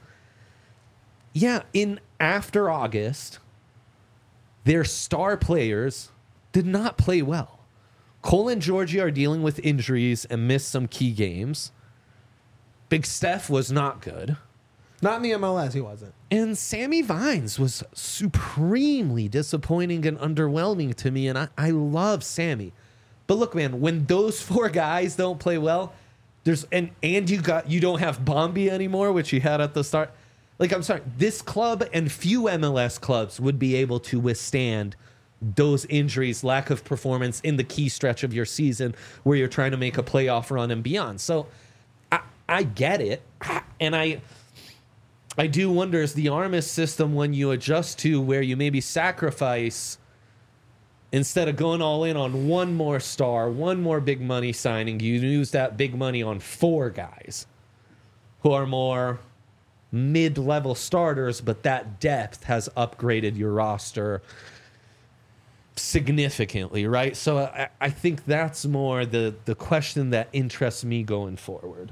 [SPEAKER 3] Yeah, after August, their star players did not play well. Cole and Georgie are dealing with injuries and missed some key games. Big Steph was not good.
[SPEAKER 1] Not in the MLS, he wasn't.
[SPEAKER 3] And Sammy Vines was supremely disappointing and underwhelming to me. And I love Sammy. But look, man, when those four guys don't play well, and you don't have Bombi anymore, which you had at the start. Like, I'm sorry, this club and few MLS clubs would be able to withstand those injuries, lack of performance in the key stretch of your season where you're trying to make a playoff run and beyond. So I get it. And I do wonder, is the Armis system when you adjust to where you maybe sacrifice, instead of going all in on one more star, one more big money signing, you use that big money on four guys who are more mid-level starters, but that depth has upgraded your roster significantly, right? So I think that's more the question that interests me going forward.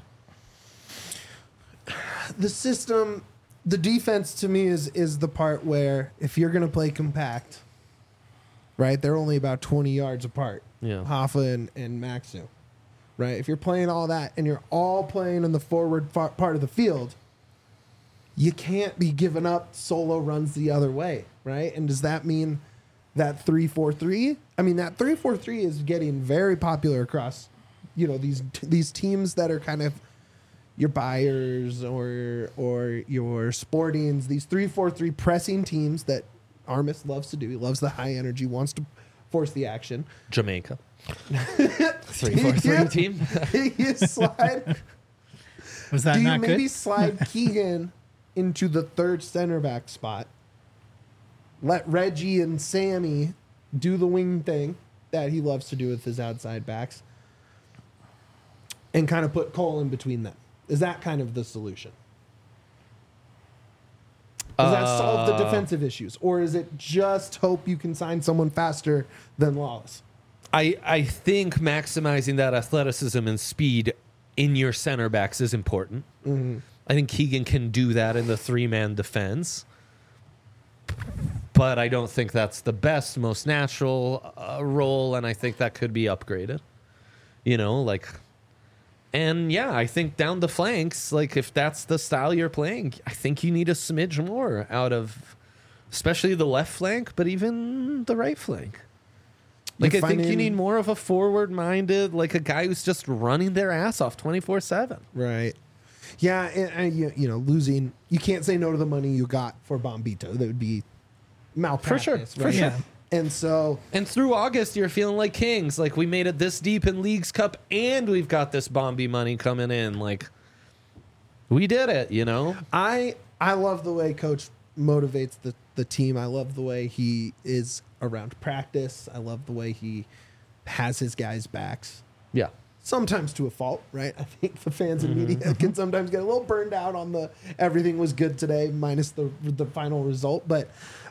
[SPEAKER 1] The system, the defense to me is the part where if you're going to play compact, right, they're only about 20 yards apart,
[SPEAKER 3] Yeah.
[SPEAKER 1] Hoffa and Maxu, right? If you're playing all that and you're all playing in the forward part of the field, you can't be giving up solo runs the other way, right? And does that mean that 3-4-3? I mean, that 3-4-3 is getting very popular across, these teams that are kind of your Bayers or your Sportings, these 3-4-3 pressing teams that Armis loves to do. He loves the high energy, wants to force the action.
[SPEAKER 3] Jamaica. 3-4-3 team.
[SPEAKER 1] You slide.
[SPEAKER 2] Was that
[SPEAKER 1] Do you
[SPEAKER 2] not
[SPEAKER 1] maybe
[SPEAKER 2] good?
[SPEAKER 1] slide Keegan into the third center back spot? Let Reggie and Sammy do the wing thing that he loves to do with his outside backs, and kind of put Cole in between them. Is that kind of the solution? Does that solve the defensive issues? Or is it just hope you can sign someone faster than Lawless?
[SPEAKER 3] I think maximizing that athleticism and speed in your center backs is important.
[SPEAKER 1] Mm-hmm.
[SPEAKER 3] I think Keegan can do that in the three-man defense. But I don't think that's the best, most natural role, and I think that could be upgraded. And yeah, I think down the flanks, like if that's the style you're playing, I think you need a smidge more out of, especially the left flank, but even the right flank. Like I think you need more of a forward-minded, like a guy who's just running their ass off 24/7.
[SPEAKER 1] Right. Yeah, and losing, you can't say no to the money you got for Bombito. That would be malpractice.
[SPEAKER 3] For
[SPEAKER 1] right?
[SPEAKER 3] sure.
[SPEAKER 2] Yeah.
[SPEAKER 1] And so,
[SPEAKER 3] And through August, you're feeling like kings. Like we made it this deep in Leagues Cup, and we've got this Bombi money coming in. Like we did it,
[SPEAKER 1] I love the way Coach motivates the the team. I love the way he is around practice. I love the way he has his guys' backs.
[SPEAKER 3] Yeah.
[SPEAKER 1] Sometimes to a fault, right? I think the fans and media can sometimes get a little burned out on the everything was good today minus the final result. But,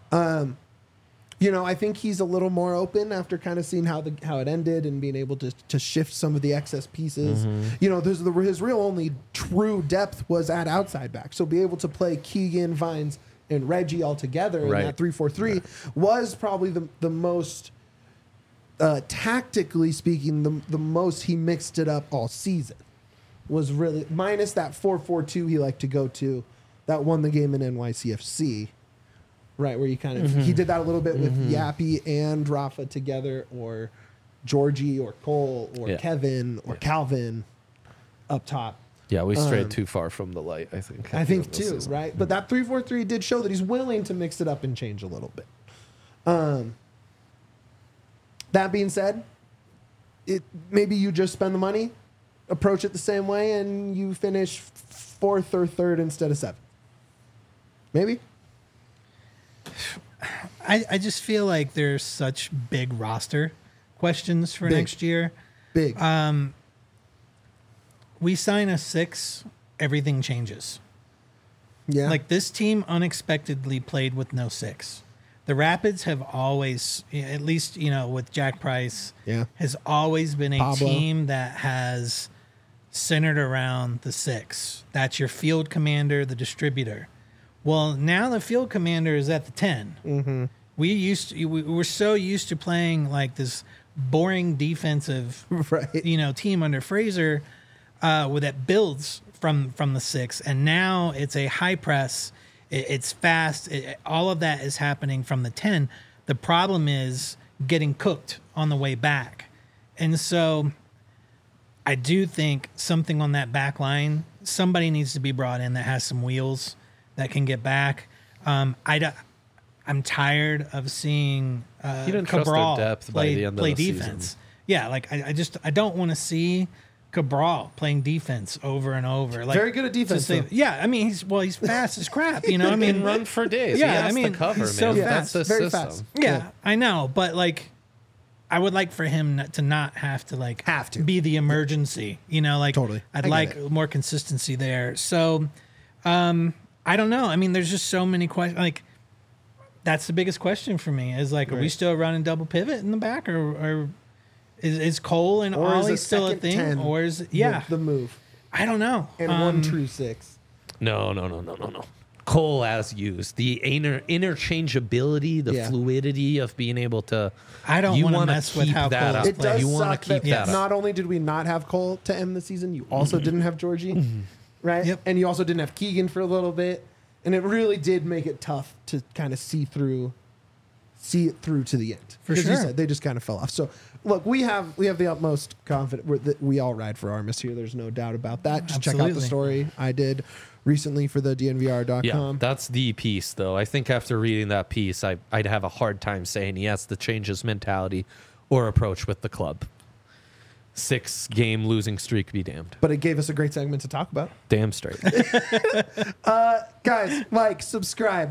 [SPEAKER 1] I think he's a little more open after kind of seeing how it ended and being able to shift some of the excess pieces. His real only true depth was at outside back. So be able to play Keegan, Vines, and Reggie all together in that 3-4-3 was probably the most... tactically speaking, the most he mixed it up all season was really minus that 4-4-2 he liked to go to that won the game in NYCFC, right? Where you kind of he did that a little bit with Yappy and Rafa together, or Georgie or Cole or Kevin or Calvin up top.
[SPEAKER 3] Yeah, we strayed too far from the light, I think.
[SPEAKER 1] I think too, right? But that 3-4-3 did show that he's willing to mix it up and change a little bit. That being said, maybe you just spend the money, approach it the same way, and you finish 4th or 3rd instead of 7th. Maybe.
[SPEAKER 2] I just feel like there's such big roster questions for next year.
[SPEAKER 1] Big.
[SPEAKER 2] We sign a 6, everything changes.
[SPEAKER 1] Yeah.
[SPEAKER 2] Like this team unexpectedly played with no 6. The Rapids have always, at least, with Jack Price, has always been a
[SPEAKER 1] Pablo.
[SPEAKER 2] team that has centered around the 6. That's your field commander, the distributor. Well, now the field commander is at the 10. Mm-hmm. We're so used to playing like this boring defensive, team under Fraser, that builds from the 6, and now it's a high press. It's fast. All of that is happening from the 10. The problem is getting cooked on the way back. And so I do think something on that back line, somebody needs to be brought in that has some wheels that can get back. I'm tired of seeing Cabral
[SPEAKER 3] depth by the end of
[SPEAKER 2] play
[SPEAKER 3] the
[SPEAKER 2] defense.
[SPEAKER 3] season.
[SPEAKER 2] Yeah, like I don't want to see Cabral playing defense over and over. Like,
[SPEAKER 1] very good at defense.
[SPEAKER 2] He's fast as crap.
[SPEAKER 3] He can run for days.
[SPEAKER 2] Yeah,
[SPEAKER 3] he has the cover,
[SPEAKER 2] he's so
[SPEAKER 3] man.
[SPEAKER 2] fast.
[SPEAKER 3] That's the
[SPEAKER 1] Very
[SPEAKER 3] system.
[SPEAKER 1] fast.
[SPEAKER 2] Yeah, I know, but like, I would like for him to not have to be the emergency.
[SPEAKER 1] Totally.
[SPEAKER 2] I'd
[SPEAKER 1] I
[SPEAKER 2] like
[SPEAKER 1] get it.
[SPEAKER 2] more consistency there. So, I don't know. I mean, there's just so many questions. Like, that's the biggest question for me. Is like, are we still running double pivot in the back, or is Cole and Ollie still a thing, or is
[SPEAKER 1] the move
[SPEAKER 2] I don't know.
[SPEAKER 1] and one true 6?
[SPEAKER 3] No. Cole as used. The interchangeability, the fluidity of being able to.
[SPEAKER 2] I don't want to mess with how
[SPEAKER 3] that
[SPEAKER 2] Cole
[SPEAKER 3] up.
[SPEAKER 1] It does
[SPEAKER 3] You want
[SPEAKER 1] suck
[SPEAKER 3] to keep that up.
[SPEAKER 1] not only did we not have Cole to end the season, you also didn't have Georgie, right?
[SPEAKER 2] Yep.
[SPEAKER 1] And you also didn't have Keegan for a little bit, and it really did make it tough to kind of see it through to the end.
[SPEAKER 2] For
[SPEAKER 1] 'Cause you
[SPEAKER 2] sure.
[SPEAKER 1] said they just kind of fell off. So look, we have the utmost confidence that we all ride for Armis here. There's no doubt about that. Just check out the
[SPEAKER 2] Absolutely.
[SPEAKER 1] story I did recently for the DNVR.com.
[SPEAKER 3] Yeah, that's the piece, though. I think after reading that piece, I'd have a hard time saying he has to change his mentality or approach with the club. 6-game losing streak be damned.
[SPEAKER 1] But it gave us a great segment to talk about.
[SPEAKER 3] Damn straight.
[SPEAKER 1] Guys, like, subscribe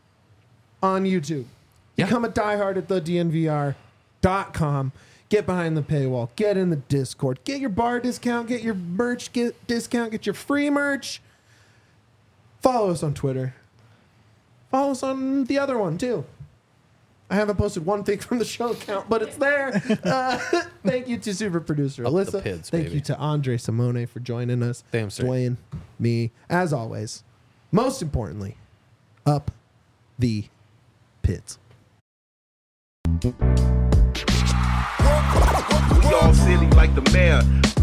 [SPEAKER 1] on YouTube.
[SPEAKER 3] Yeah.
[SPEAKER 1] Become a diehard at the DNVR.com. Get behind the paywall. Get in the Discord. Get your bar discount. Get your merch discount. Get your free merch. Follow us on Twitter. Follow us on the other one, too. I haven't posted one thing from the show account, but it's there. Thank you to super producer
[SPEAKER 3] Up the
[SPEAKER 1] Alyssa.
[SPEAKER 3] pids,
[SPEAKER 1] Thank
[SPEAKER 3] baby.
[SPEAKER 1] you to Andre Simone for joining us.
[SPEAKER 3] Damn straight.
[SPEAKER 1] Dwayne, me, as always. Most importantly, up the pits.
[SPEAKER 4] We all silly like the mayor.